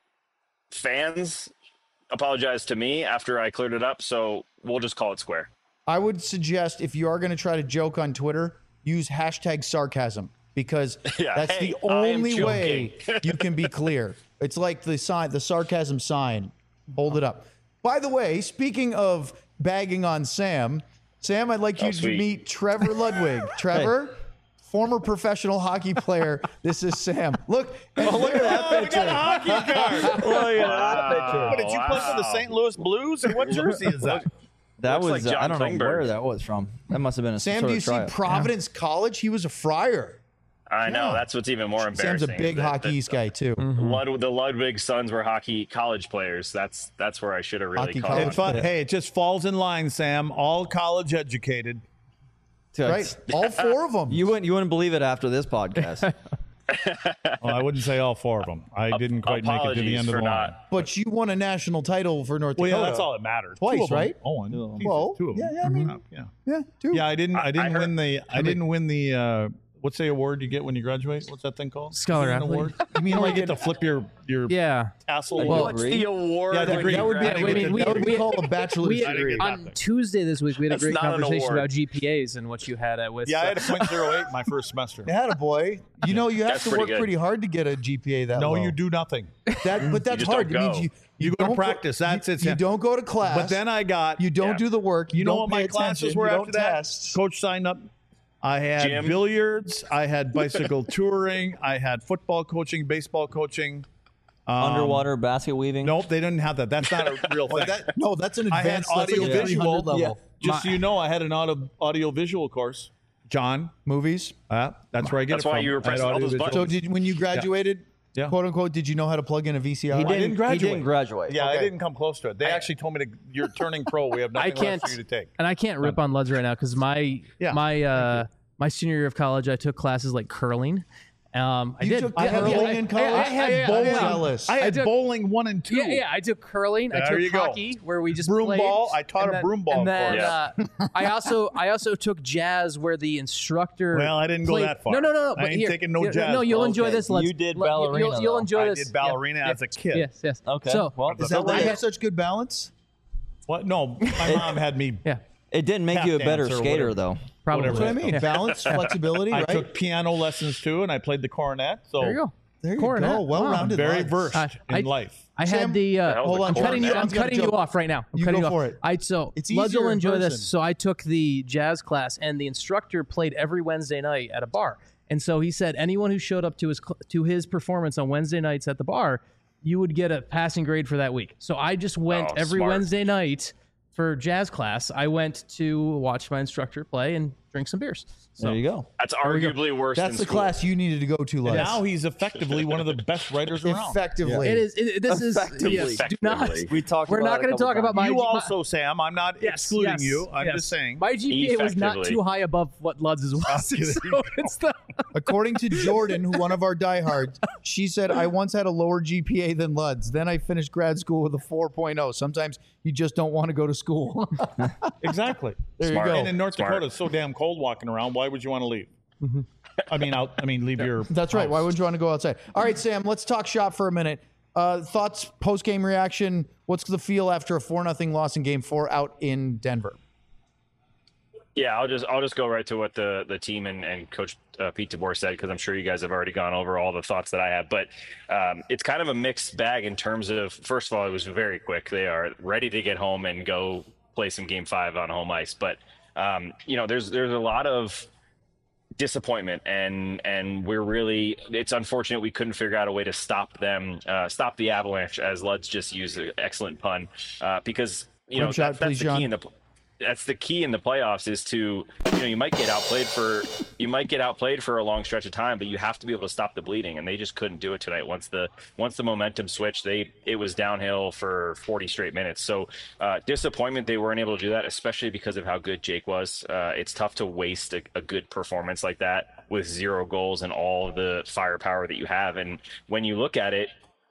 fans apologize to me after I cleared it up. So we'll just call it square. I would suggest if you are going to try to joke on Twitter, use hashtag sarcasm because Yeah, that's hey, the I am only way joking. you can be clear. It's like the sign, the sarcasm sign. Hold it up. By the way, speaking of bagging on Sam, Sam, I'd like you Oh, to sweet. meet Trevor Ludwig. Trevor, former professional hockey player. This is Sam. Look, oh, look at that picture. Hockey card. Wow. What, did you play for the Saint Louis Blues? And what jersey is that? That Looks was like uh, I John don't know Klingberg. where that was from. That must have been a Sam, sort do you of see tryout. Providence College? He was a Friar. I know. Yeah. That's what's even more embarrassing. Sam's a big is that- hockey that East guy too. Lud- the Ludwig sons were hockey college players. That's that's where I should have really Hockey called college it. It's fun. Hey, it just falls in line, Sam. All college educated. Right? All four of them. You wouldn't you wouldn't believe it after this podcast. Well, I wouldn't say all four of them. I didn't quite make it to the Apologies end of for the line. not. But you won a national title for North Well, Dakota. yeah, that's all that matters. Twice, Two of them. right? Oh, and Jesus, Well, two of them. yeah, yeah, I mean- yeah. Yeah, two. Yeah, I didn't. I didn't I win the. I didn't win the. Uh, what's the award you get when you graduate? What's that thing called? Scholar Is it an athlete. award? You mean like you get to flip your your Yeah. tassel? Well, What's the award? Yeah, the when degree. you That would be- graduate? I mean, we- that would be we- called a bachelor's We, I didn't degree. get on nothing. Tuesday this week, we had a That's great not an conversation award. about G P As and what you had at with. yeah, I uh, had a point zero eight my first semester. Had a boy. You know, you have That's to pretty work good. pretty hard to get a G P A that No, low. you do nothing. That, but that's just hard. don't It means go. you, You go to don't practice. That's you, it, You Sam. don't go to class. But then I got. you don't Yeah. do the work. You, You know don't what my pay classes attention, were you after don't that? test. Coach signed up. I had Gym. billiards. I had bicycle touring. I had football coaching, baseball coaching. Um, Underwater basket weaving. Nope, they didn't have that. That's not a real thing. That, no, that's an I had advanced that's like a audio three visual. hundred level. Yeah. Just so you know, I had an audio audio visual course. John, Movies. uh, that's where I get That's it why from. you were I had pressing all those audio buttons. So visual. did when you graduated, Yeah. quote unquote, did you know how to plug in a V C R? He I didn't, didn't graduate. He didn't graduate. Yeah, I Okay. didn't come close to it. They actually told me to. You're turning pro. We have I nothing can't, left for you to take. and I can't rip on Luds right now because my Yeah, my uh, my senior year of college, I took classes like curling. Um, I You did. took I had bowling I- in I- college? I, I had had bowling. bowling. Jealous. I had I took- bowling one and two. Yeah, yeah. I took curling. I There took you go. hockey, where we just Broom played. ball. I taught and a then- broom ball And then course. uh, I also I also took jazz, where the instructor. Well, I didn't go played- that far. No, no, no, no. I but ain't here, taking no here- jazz. No, you'll enjoy Okay. this. Let's, You did let- you'll- ballerina, You'll, you'll though. enjoy I this. did ballerina Yeah. as a kid. Yes, yes. Okay, So, well, Is that why I you had- have such good balance? What? No, my mom had me. yeah, It didn't make Tap you a better dance or skater, whatever. though. probably. That's what I mean. Yeah. Balance, flexibility, I right? took piano lessons too, and I played the cornet. So There you go. there you Cornet. go. Wow. Well-rounded. very lives. versed Uh, in I- life. I Sam, had the. the Uh, hell Hold the on, cornet? cutting you, I'm Sam's got a cutting you joke. off right now. I'm You cutting go you for off. it. I so It's Luds easier will in enjoy this. person. So I took the jazz class, and the instructor played every Wednesday night at a bar. And so he said anyone who showed up to his cl- to his performance on Wednesday nights at the bar, you would get a passing grade for that week. So I just went Oh, every smart. Wednesday night for jazz class. I went to watch my instructor play and drink some beers. So There you go. That's arguably worse That's than the school. class you needed to go to, Les. Now he's effectively one of the best writers around. Effectively. it is. It, this is. Effectively. Yes, do not. Effectively. We talked. We're about not it a going to couple talk about times. my. You my- also, Sam. I'm not Yes, excluding yes, you. I'm yes. just saying. My G P A was not Effectively. too high above what Luds' was. So it's the, According to Jordan, who one of our diehards, she said, I once had a lower G P A than Luds. Then I finished grad school with a four point oh. Sometimes you just don't want to go to school. Exactly. There Smart. you go. And in North Smart. Dakota, it's so damn cold walking around. Why would you want to leave? I mean, out. I mean, leave your. That's right. house. Why would you want to go outside? All right, Sam, let's talk shop for a minute. Uh, thoughts, post game reaction. What's the feel after a four nothing loss in game four out in Denver? Yeah, I'll just I'll just go right to what the the team and, and Coach uh, Pete DeBoer said, because I'm sure you guys have already gone over all the thoughts that I have. But um, it's kind of a mixed bag in terms of, first of all, it was very quick. They are ready to get home and go play some game five on home ice. But um, you know, there's there's a lot of disappointment, and and we're really, it's unfortunate we couldn't figure out a way to stop them, uh, stop the Avalanche, as Luds just used an excellent pun, uh, because you know Rim shot, that, that's please, the John. key in the that's the key in the playoffs, is to, you know, you might get outplayed for you might get outplayed for a long stretch of time, but you have to be able to stop the bleeding, and they just couldn't do it tonight. Once the once the momentum switched, they it was downhill for forty straight minutes. So uh, disappointment they weren't able to do that, especially because of how good Jake was. Uh, it's tough to waste a, a good performance like that with zero goals and all of the firepower that you have. And when you look at it,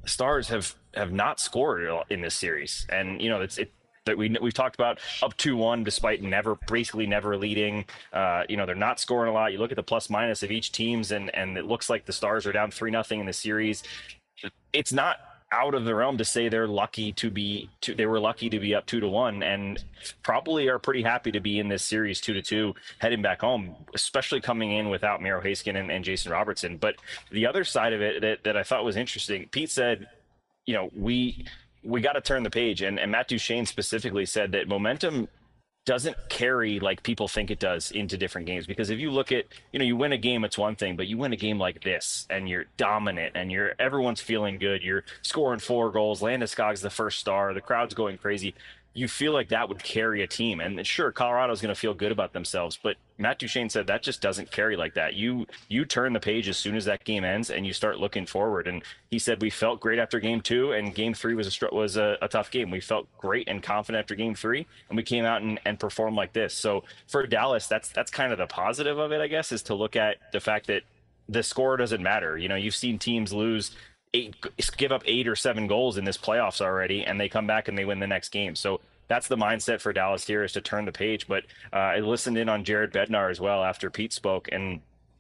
Stars have have not scored in this series, and you know it's it that we we've talked about up two one despite never basically never leading. Uh, you know they're not scoring a lot. You look at the plus minus of each teams, and and it looks like the Stars are down three nothing in the series. It's not out of the realm to say they're lucky to be to, they were lucky to be up two to one, and probably are pretty happy to be in this series two to two heading back home, especially coming in without Miro Heiskanen and, and Jason Robertson. But the other side of it that, that I thought was interesting, Pete said, you know, we we got to turn the page, and, and Matt Duchene specifically said that momentum doesn't carry like people think it does into different games. Because if you look at, you know, you win a game, it's one thing, but you win a game like this and you're dominant and you're everyone's feeling good. You're scoring four goals. Landeskog's the first star. The crowd's going crazy. You feel like that would carry a team. And sure, Colorado's going to feel good about themselves, but Matt Duchene said that just doesn't carry like that. You you turn the page as soon as that game ends and you start looking forward. And he said we felt great after game two, and game three was a was a, a tough game. We felt great and confident after game three, and we came out and, and performed like this. So for Dallas, that's that's kind of the positive of it, I guess, is to look at the fact that the score doesn't matter. You know, you've seen teams lose eight, give up eight or seven goals in this playoffs already, and they come back and they win the next game. So that's the mindset for Dallas here, is to turn the page. But uh, I listened in on Jared Bednar as well after Pete spoke, and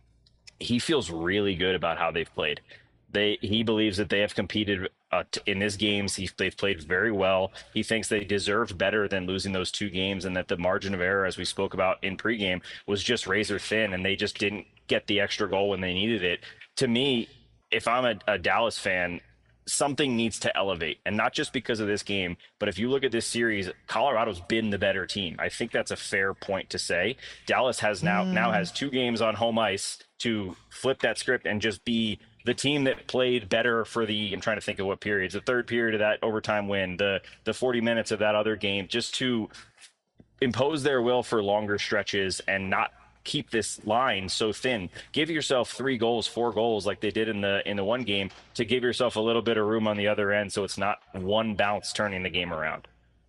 he feels really good about how they've played. They he believes that they have competed uh, t- in these games. He, they've played very well. He thinks they deserved better than losing those two games, and that the margin of error, as we spoke about in pregame, was just razor thin, and they just didn't get the extra goal when they needed it. To me, if I'm a, a Dallas fan, something needs to elevate, and not just because of this game, but if you look at this series, Colorado's been the better team. I think that's a fair point to say. Dallas has now mm. now has two games on home ice to flip that script and just be the team that played better for the, I'm trying to think of what periods, the third period of that overtime win, the the forty minutes of that other game, just to impose their will for longer stretches and not keep this line so thin. Give yourself three goals, four goals like they did in the in the one game, to give yourself a little bit of room on the other end, so it's not one bounce turning the game around.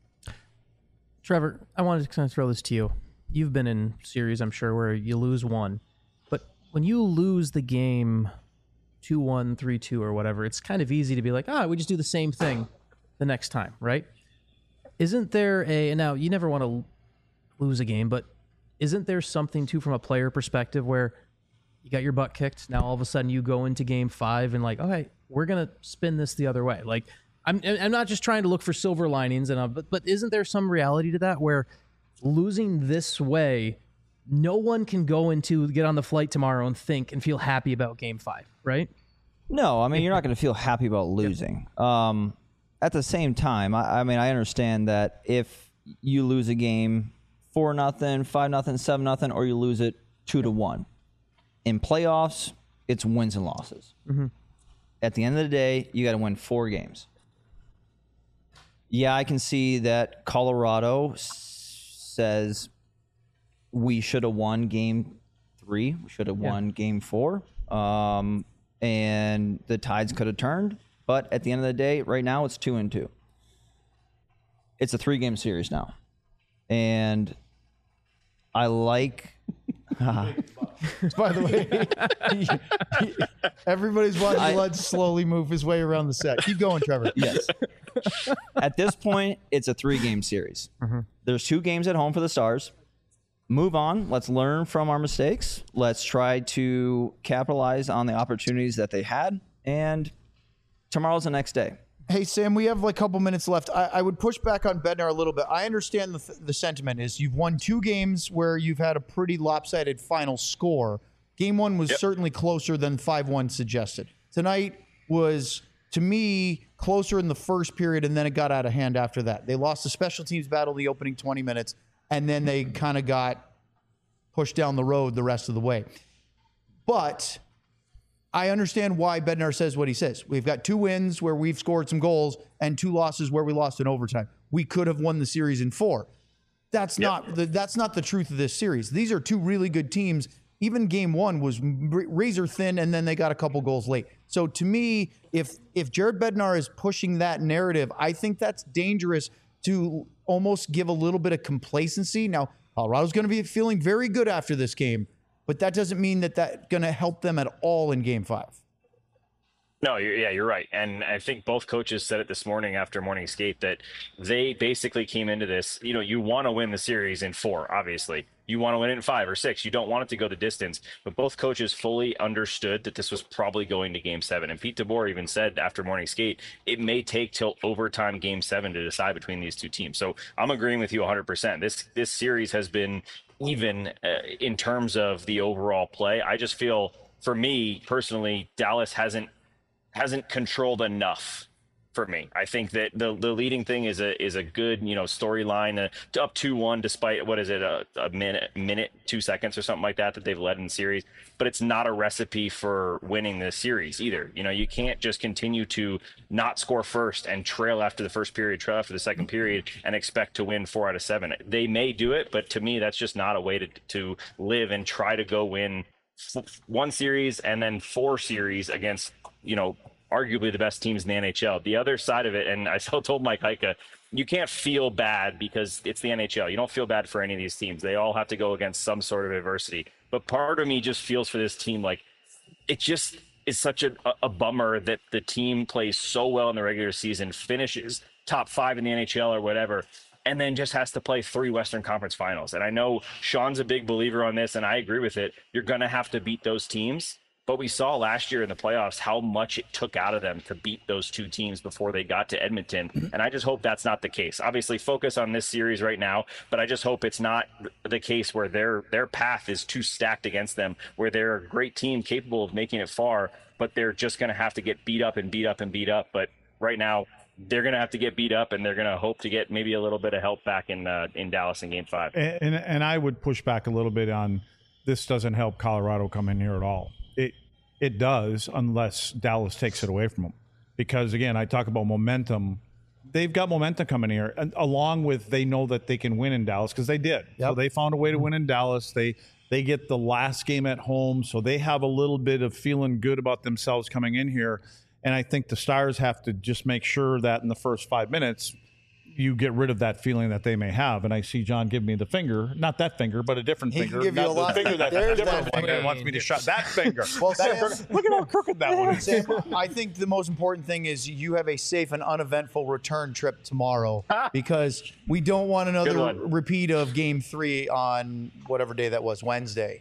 Trevor, I wanted to kind of throw this to you. You've been in series, I'm sure, where you lose one, but when you lose the game two one, three two or whatever, it's kind of easy to be like, ah, we just do the same thing the next time, right? Isn't there a, now you never want to lose a game, but isn't there something too from a player perspective where you got your butt kicked, now all of a sudden you go into game five and like, okay, we're gonna spin this the other way. Like, I'm I'm not just trying to look for silver linings, and uh, but but isn't there some reality to that where losing this way, no one can go into get on the flight tomorrow and think and feel happy about game five, right? No, I mean, you're not going to feel happy about losing. Um, at the same time, I, I mean, I understand that if you lose a game four nothing, five nothing, seven nothing, or you lose it two to one. In playoffs, it's wins and losses. Mm-hmm. At the end of the day, you got to win four games. Yeah, I can see that Colorado s- says we should have won game three. We should have yeah. won game four. Um, and the tides could have turned. But at the end of the day, right now, it's two and two. It's a three-game series now. And I like... uh, By the way, he, he, everybody's watching I, Lud slowly move his way around the set. Keep going, Trevor. Yes. At this point, it's a three-game series. Mm-hmm. There's two games at home for the Stars. Move on. Let's learn from our mistakes. Let's try to capitalize on the opportunities that they had. And tomorrow's the next day. Hey, Sam, we have like a couple minutes left. I, I would push back on Bednar a little bit. I understand the, the sentiment is you've won two games where you've had a pretty lopsided final score. Game one was yep. certainly closer than five one suggested. Tonight was, to me, closer in the first period, and then it got out of hand after that. They lost the special teams battle the opening twenty minutes, and then they kind of got pushed down the road the rest of the way. But I understand why Bednar says what he says. We've got two wins where we've scored some goals and two losses where we lost in overtime. We could have won the series in four. That's yep. not the, that's not the truth of this series. These are two really good teams. Even game one was razor thin, and then they got a couple goals late. So to me, if if Jared Bednar is pushing that narrative, I think that's dangerous to almost give a little bit of complacency. Now, Colorado's going to be feeling very good after this game, but that doesn't mean that that's going to help them at all in game five. No, you're, yeah, you're right. And I think both coaches said it this morning after morning skate that they basically came into this, you know, you want to win the series in four, obviously. You want to win it in five or six. You don't want it to go the distance. But both coaches fully understood that this was probably going to game seven. And Pete DeBoer even said after morning skate, it may take till overtime game seven to decide between these two teams. So I'm agreeing with you one hundred percent. This, this series has been even uh, in terms of the overall play. I just feel, for me personally, Dallas hasn't hasn't controlled enough for me. I think that the the leading thing is a is a good, you know, storyline uh, up two one despite what is it a, a minute minute two seconds or something like that that they've led in the series, but it's not a recipe for winning the series either. You know, you can't just continue to not score first and trail after the first period, trail after the second period and expect to win four out of seven. They may do it, but to me that's just not a way to to live and try to go win one series and then four series against, you know, arguably the best teams in the N H L. The other side of it, and I still told Mike Heika, you can't feel bad because it's the N H L. You don't feel bad for any of these teams. They all have to go against some sort of adversity. But part of me just feels for this team like it just is such a, a bummer that the team plays so well in the regular season, finishes top five in the N H L or whatever, and then just has to play three Western Conference finals. And I know Sean's a big believer on this, and I agree with it. You're going to have to beat those teams. But we saw last year in the playoffs how much it took out of them to beat those two teams before they got to Edmonton. And I just hope that's not the case. Obviously, focus on this series right now, but I just hope it's not the case where their their path is too stacked against them, where they're a great team capable of making it far, but they're just going to have to get beat up and beat up and beat up. But right now, they're going to have to get beat up, and they're going to hope to get maybe a little bit of help back in uh, in Dallas in Game Five. And, and and I would push back a little bit on this. Doesn't help Colorado come in here at all. It it does unless Dallas takes it away from them, because again, I talk about momentum. They've got momentum coming here, and along with they know that they can win in Dallas because they did. Yep. So they found a way to win in Dallas. They they get the last game at home, so they have a little bit of feeling good about themselves coming in here. And I think the Stars have to just make sure that in the first five minutes, you get rid of that feeling that they may have. And I see John give me the finger, not that finger, but a different he finger. Can give you not a the lot. finger that, There's different that one finger. that wants me to shut that finger. Well, Sam, look at how crooked that one is. Sam, I think the most important thing is you have a safe and uneventful return trip tomorrow, because we don't want another repeat of Game Three on whatever day that was, Wednesday.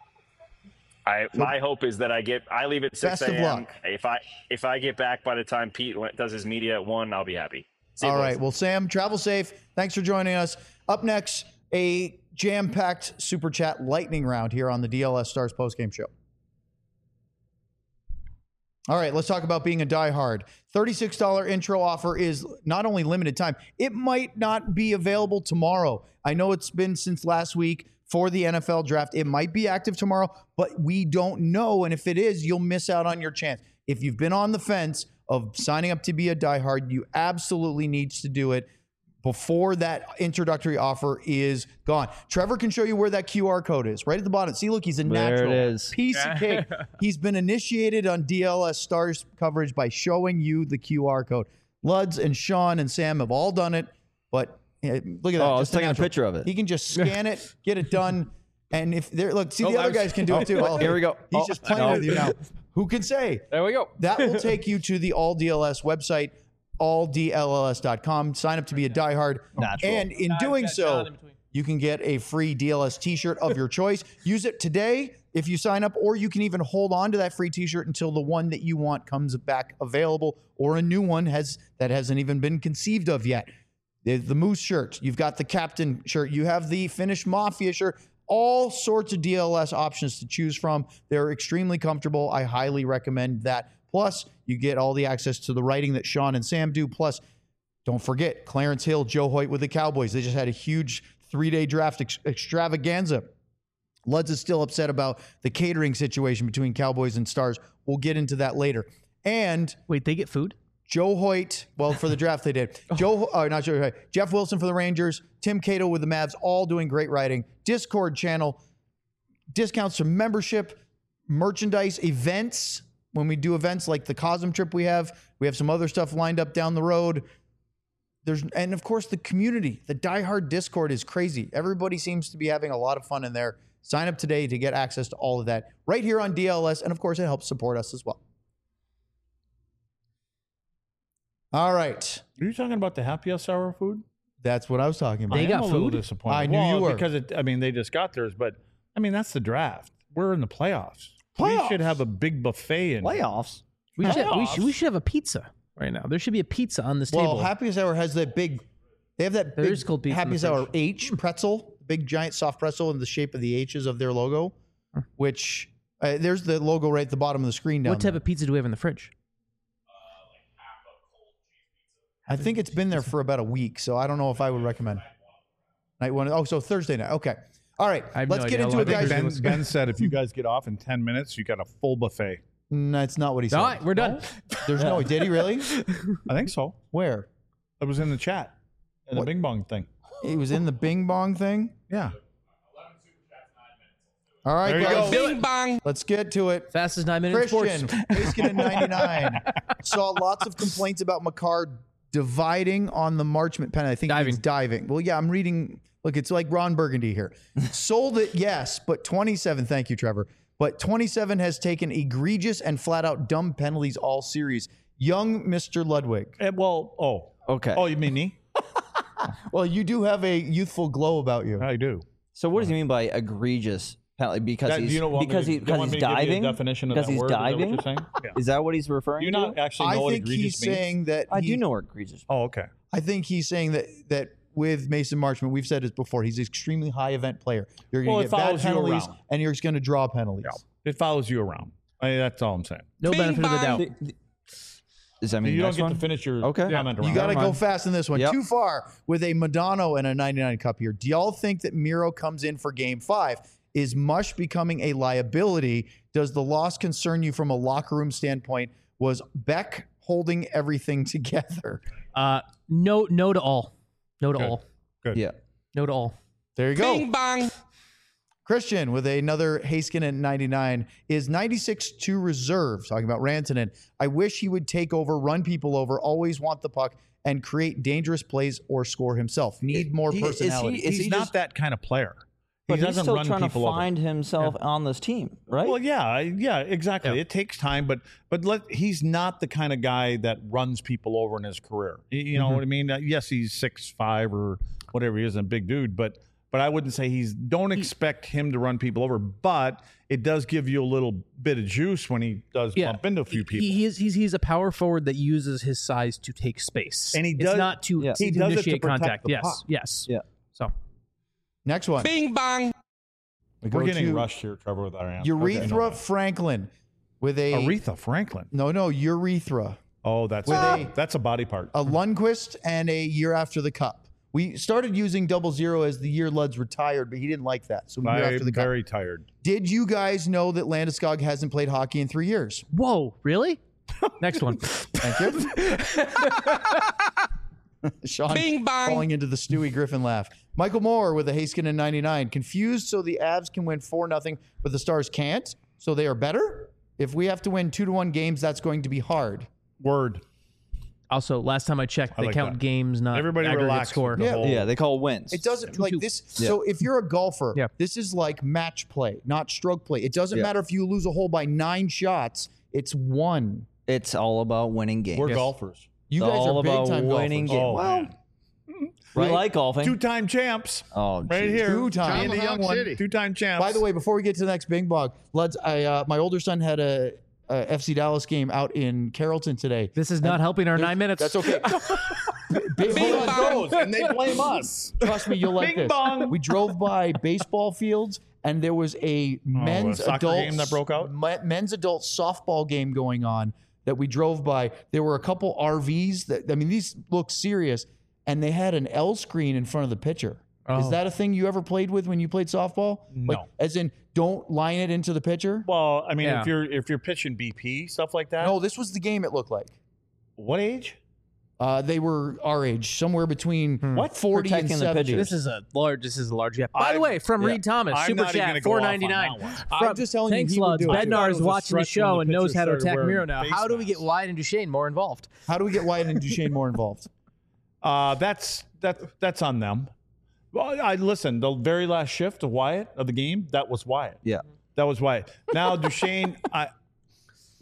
I, my hope is that I get I leave at six a.m. If I if I get back by the time Pete does his media at one, I'll be happy. See All you, right. Well, Sam, travel safe. Thanks for joining us. Up next, a jam-packed Super Chat lightning round here on the D L S Stars postgame show. All right, let's talk about being a diehard. thirty-six dollars intro offer is not only limited time, it might not be available tomorrow. I know it's been since last week for the N F L draft. It might be active tomorrow, but we don't know. And if it is, you'll miss out on your chance. If you've been on the fence of signing up to be a diehard, you absolutely need to do it before that introductory offer is gone. Trevor can show you where that Q R code is right at the bottom. See, look, he's a natural there it is. piece of cake. He's been initiated on D L S Stars coverage by showing you the Q R code. Luds and Sean and Sam have all done it, but look at that. Oh, I was just a taking a natural. picture of it. He can just scan it, get it done. And if they're, look, see, Oh, the I other was- guys can do oh, it too. oh, here we go. He's Oh, just playing no. with you now. Who can say? There we go. That will take you to the All D L S website, all D L L S dot com. Sign up to be a diehard. Natural. And in doing so, you can get a free D L S t-shirt of your choice. Use it today if you sign up, or you can even hold on to that free t-shirt until the one that you want comes back available, or a new one has that hasn't even been conceived of yet. The, the Moose shirt, you've got the Captain shirt, you have the Finnish Mafia shirt, all sorts of D L S options to choose from. They're extremely comfortable. I highly recommend that. Plus, you get all the access to the writing that Sean and Sam do. Plus, don't forget, Clarence Hill, Joe Hoyt with the Cowboys. They just had a huge three-day draft ex- extravaganza. Luds is still upset about the catering situation between Cowboys and Stars. We'll get into that later. And Wait, they get food? Joe Hoyt, well, for the draft they did. Joe, uh, not Joe Hoyt, Jeff Wilson for the Rangers, Tim Cato with the Mavs, all doing great writing. Discord channel, discounts to membership, merchandise, events. When we do events like the Cosm trip we have, we have some other stuff lined up down the road. There's, and of course, the community, the diehard Discord is crazy. Everybody seems to be having a lot of fun in there. Sign up today to get access to all of that right here on D L S. And of course, it helps support us as well. All right. Are you talking about the happy hour food? That's what I was talking about. They I got am a little food? disappointed. I knew well, you were. because it, I mean they just got theirs, but I mean that's the draft. We're in the playoffs. We Playoffs? should have a big buffet in here. Playoffs. We should, we, Playoffs? should, we should have a pizza right now. There should be a pizza on this Well, table. Happy Hour has that big. They have that There big is cold pizza in Happy the Hour fridge. H pretzel, big giant soft pretzel in the shape of the H's of their logo, which uh, there's the logo right at the bottom of the screen down What type there. of pizza do we have in the fridge? I think it's been there for about a week, so I don't know if I would recommend. Night one. Oh, so Thursday night. Okay. All right. I have Let's no get idea into how it, long guys. Thursday Ben, was- ben said if you guys get off in ten minutes, you got a full buffet. No, that's not what he said. All right, we're done. There's no. Did he really? I think so. Where? It was in the chat. In the What? Bing Bong thing. He was in the Bing Bong thing. Yeah. All right, There you guys. go. Bing bong. Let's get to it. Fastest nine minutes in Christian, sports. Haskin in ninety-nine. Saw lots of complaints about McCarr dividing on the Marchment pen. I think Diving. he's diving. Well, yeah, I'm reading. Look, it's like Ron Burgundy here. Sold it, yes, but twenty-seven. Thank you, Trevor. But twenty-seven has taken egregious and flat out dumb penalties all series. Young Mister Ludwig. Eh, well, oh. Okay. Oh, you mean me? Well, you do have a youthful glow about you. I do. So what does he mean by egregious penalty? Because That- do he's you know what because me he to- do you because want he's me to give you a diving. definition of Because that he's word? Is that what diving. you're saying? Yeah. Is that what he's referring Do you to? not actually I know what think egregious he's means? saying that. I he- do know what egregious. Oh, okay. I think he's saying that that with Mason Marchment, we've said this before, he's an extremely high event player. You're going Well, to it get bad follows you penalties, around. and you're just going to draw penalties. Yeah. It follows you around. I mean, that's all I'm saying. No Bing benefit of the bong. doubt. Does that mean You don't next get one? to finish your Okay. comment around. You got to Never go mind. fast in this one. Yep. Too far with a Madonna and a ninety-nine cup here. Do y'all think that Miro comes in for game five? Is Mush becoming a liability? Does the loss concern you from a locker room standpoint? Was Beck holding everything together? Uh, no, no to all. No to Good. all. Good. Yeah. No to all. There you go. Bing bong. Christian with another Haskin at ninety-nine. Is ninety-six to reserve? Talking about Rantanen. I wish he would take over, run people over, always want the puck, and create dangerous plays or score himself. Need more He- is he- personality. is He's he not just- that kind of player. But he he's doesn't still run trying to people over. find himself on this team, right? Well, yeah, I- yeah, exactly. Yeah. It takes time, but but let he's not the kind of guy that runs people over in his career. You, you know what I mean? Uh, yes, he's six five or whatever he is, a big dude, but but I wouldn't say he's. Don't expect him to run people over, but it does give you a little bit of juice when he does Yeah. bump into a few people. He, he is, he's, he's a power forward that uses his size to take space. And he It's does- not to, Yeah. to He does it to initiate protect contact. the Yes. puck. Yes. Yeah. So Next one. Bing bong. We go We're getting to rushed here, Trevor, with our answer. Urethra Franklin with a Aretha Franklin. no, no, urethra. Oh, that's With a, a- that's a body part. A Lundqvist and a year after the cup. We started using double zero as the year Luds retired, but he didn't like that. So year after I'm the cup. very tired. Did you guys know that Landeskog hasn't played hockey in three years? whoa, really? Next one. Thank you. Sean Bing bong. falling into the Stewie Griffin laugh. Michael Moore with a Haskin in ninety-nine. Confused so the Avs can win four nothing, but the Stars can't. So they are better? If we have to win two to one games, that's going to be hard. Word. Also, last time I checked, I they like count that. games, not Everybody aggregate relax score. with the Yeah. whole- yeah, they call wins. It doesn't Two, like two. this. Yeah. So if you're a golfer, Yeah. this is like match play, not stroke play. It doesn't Yeah. matter if you lose a hole by nine shots. It's one. It's all about winning games. We're golfers. You It's guys all are big about time winning golfers. games. Oh, well, man. we right? like golfing. Two-time champs. oh, Right geez. here. Two times. Me and the young one. Two-time champs. By the way, before we get to the next Bing Bong, let's. I uh, my older son had a, a F C Dallas game out in Carrollton today. This is not helping our nine minutes. That's okay. Big, Bing hold on, bong. goes, and they blame us. Trust me, you'll like Bing this. bong. We drove by baseball fields, and there was a men's soccer adult game that broke out? me- men's adult softball game going on that we drove by. There were a couple R Vs that I mean, these look serious, and they had an L screen in front of the pitcher. Is Oh. that a thing you ever played with when you played softball? Like, No. as in, don't line it into the pitcher. Well, I mean, Yeah. if you're if you're pitching B P stuff like that. No, this was the game. It looked like. What age? Uh, they were our age, somewhere between What? forty and Protecting the seventy. pitchers. This is a large. This is a large gap. By the I'm- way, from yeah. Reed Thomas, I'm super not even chat gonna go four off on ninety nine. that one. I'm just telling you, Thanks, he would Luds. do it. I thought Bednar it is was a watching the stretch when show the and knows pitcher how to started attack wearing Miro now. face How do we get masks. Wyatt and Duchesne more involved? How do we get Wyatt and Duchesne more involved? Uh, that's that that's on them. Well, I listen. The very last shift of Wyatt of the game, that was Wyatt. Yeah. That was Wyatt. Now Duchesne, I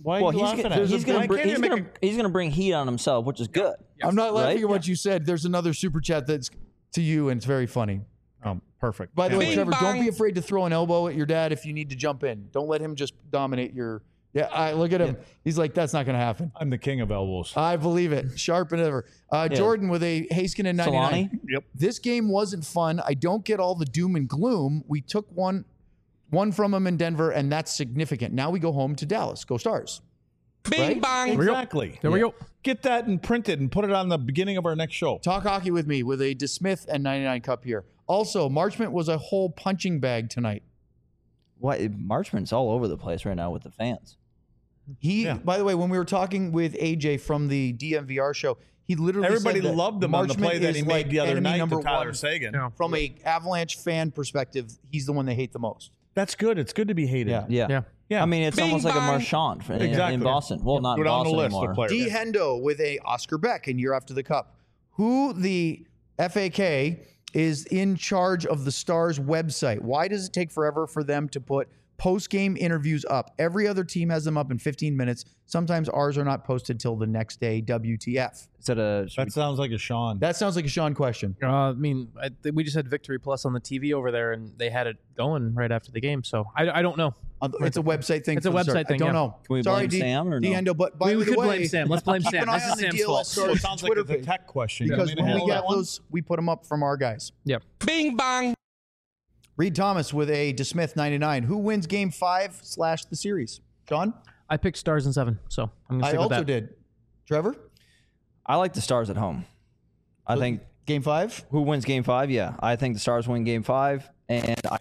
Why are Well, you he's laughing gonna, at it? he's, gonna, Why br- can't you he's, make gonna, he's gonna bring heat on himself, which is good. I'm not laughing Right? at what you said. There's another super chat that's to you, and it's very funny. a- um, perfect. By the way, Bing Trevor, don't bong. be afraid to throw an elbow at your dad if you need to jump in. Don't let him just dominate your. Yeah, I look at him. He's like, that's not going to happen. I'm the king of elbows. I believe it. Sharp and ever. Uh, Yeah. Jordan with a Haskin ninety-nine. Solani? Yep. This game wasn't fun. I don't get all the doom and gloom. We took one, one from him in Denver, and that's significant. Now we go home to Dallas. Go Stars. Bing Right? bong. Exactly. There we go. Get that and print it and put it on the beginning of our next show. Talk hockey with me with a DeSmith and ninety-nine cup here. Also, Marchment was a whole punching bag tonight. What? Marchman's all over the place right now with the fans. He, Yeah. by the way, when we were talking with A J from the D M V R show, he literally Everybody said that loved him on the Marchment play that is he like made the other enemy night number to Tyler one. Sagan. Yeah. From a Avalanche fan perspective, he's the one they hate the most. That's good. It's good to be hated. Yeah. Yeah. Yeah. Yeah. I mean, it's Bing almost like a bong. Marchand in, Exactly. in Boston. Well, not Go in down the Boston list anymore. of players. D Hendo with a Oscar Beck in year after the cup, who the F A K is in charge of the Stars website. Why does it take forever for them to put post-game interviews up? Every other team has them up in fifteen minutes. Sometimes ours are not posted till the next day. W T F. Is that a? should That sounds like a Sean. That sounds like a Sean question. Uh, I mean, I, th- we just had Victory Plus on the T V over there, and they had it going right after the game. So I, I don't know. Uh, It's a website thing. It's a for the Stars. website thing, I don't yeah. know. Can we Sorry, blame D- Sam or no? D Hendo, but by We, we the could way, blame Sam. Let's blame keep Sam. an eye This on is the Sam's D L S fault. So Stars it sounds Twitter like it's a page. tech question. You Because want me to when we handle get that one? those, we put them up from our guys. Yep. Bing bong. Reed Thomas with a DeSmith ninety-nine. Who wins game five slash the series? John? I picked Stars in seven, so I'm gonna I stick with also that. did. Trevor? I like the Stars at home. I think Game five? who wins Game Five? Yeah, I think the Stars win Game Five, and I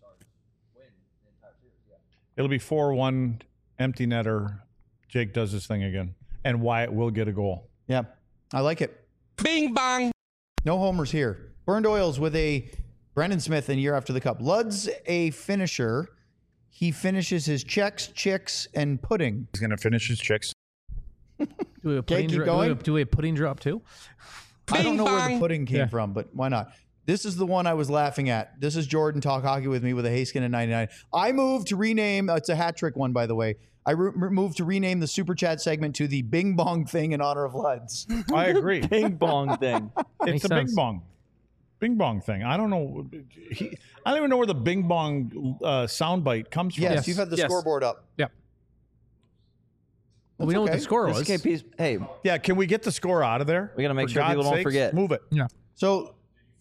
It'll be four one, empty netter. Jake does his thing again. And Wyatt will get a goal. Yeah. I like it. Bing bong. No homers here. Burned Oils with a Brendan Smith in year after the cup. Lud's a finisher. He finishes his checks, chicks, and pudding. He's going to finish his chicks. Do we have pudding, keep dro- do we going. have, do we have pudding drop too? I don't Bing know where the bong. pudding came Yeah. from, but why not? This is the one I was laughing at. This is Jordan Talk Hockey with me with a Haskin and ninety-nine. I moved to rename, uh, it's a hat trick one, by the way. I re- moved to rename the Super Chat segment to the Bing Bong thing in honor of Luds. I agree. Bing bong thing. It's Makes a sense. bing bong. Bing bong thing. I don't know. He, I don't even know where the bing bong uh, soundbite comes from. Yes, Yes, you've had the yes. scoreboard up. Yep. Well, we That's know what okay. the score This was. K P's. Hey, Yeah, can we get the score out of there? We gotta make For sure people God's don't sakes, forget. Move it. Yeah. So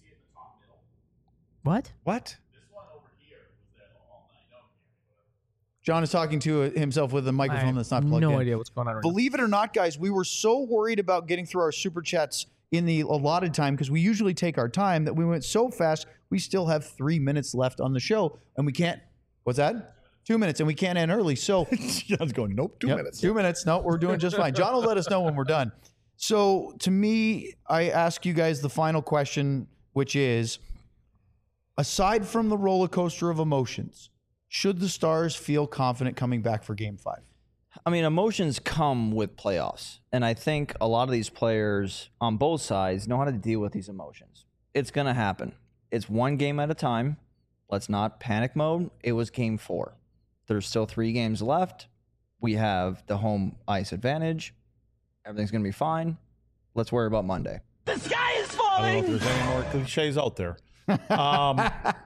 What? What? John is talking to himself with a I microphone have that's not plugged no in. idea what's going on right now. Believe it or not, guys, we were so worried about getting through our super chats in the allotted time because we usually take our time that we went so fast we still have three minutes left on the show and we can't. What's that? Two minutes and we can't end early. So John's going, nope, two Yep, minutes. Two minutes. No, we're doing just fine. John will let us know when we're done. So to me, I ask you guys the final question, which is, aside from the roller coaster of emotions, should the Stars feel confident coming back for Game Five? I mean, emotions come with playoffs. And I think a lot of these players on both sides know how to deal with these emotions. It's going to happen. It's one game at a time. Let's not panic mode. It was game four. There's still three games left. We have the home ice advantage. Everything's going to be fine. Let's worry about Monday. I don't know if there's any more cliches out there. Um,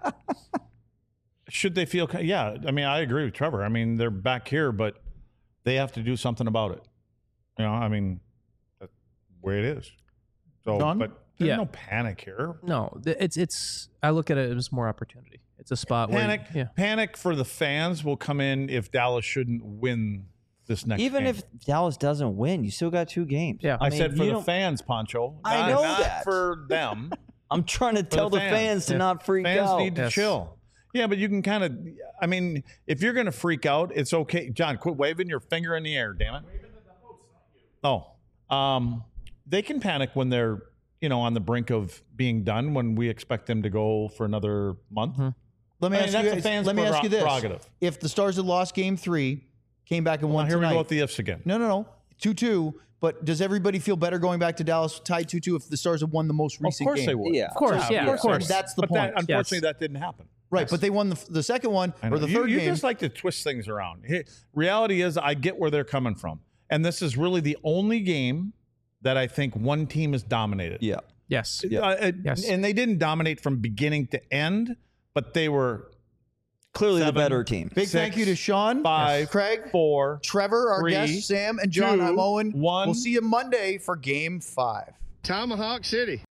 should they feel? Yeah, I mean, I agree with Trevor. I mean, they're back here, but they have to do something about it. You know, I mean, that's the way it is. So, Don? but there's Yeah. no panic here. No, th- it's it's. I look at it as more opportunity. It's a spot Panic, where yeah. panic for the fans will come in if Dallas shouldn't win this next. Even game. if Dallas doesn't win, you still got two games. Yeah. I mean, said for you the don't- fans, Poncho. I not- know not that. for them. I'm trying to tell the the fans, fans. to Yeah. not freak Fans out. need to Yes. chill. Yeah, but you can kind of. I mean, if you're going to freak out, it's okay. John, quit waving your finger in the air. Damn it. Oh, um, they can panic when they're you know on the brink of being done. When we expect them to go for another month. Let me I mean, ask that's you. a guys- fan's let me ask you this: prerogative. if the Stars had lost Game Three, came back and Well, won here we tonight, go with the ifs again. no, no, no, two two. But does everybody feel better going back to Dallas tied two two if the Stars have won the most Of recent course game? they would. Yeah. Of course, yeah, of of course. That's the But point. that, unfortunately, Yes. that didn't happen. Right, but they won the, the second one I know. or the you, third you game. just like to twist things around. Hey, reality is, I get where they're coming from, and this is really the only game that I think one team has dominated. Yeah. Yes. Yeah. Uh, Yes. And they didn't dominate from beginning to end, but they were Clearly Seven. the better team. Big Six, thank you to Sean, five, Craig, four, Trevor, our three, guest, Sam, and John. two, I'm Owen. one. We'll see you Monday for Game Five. Tomahawk City.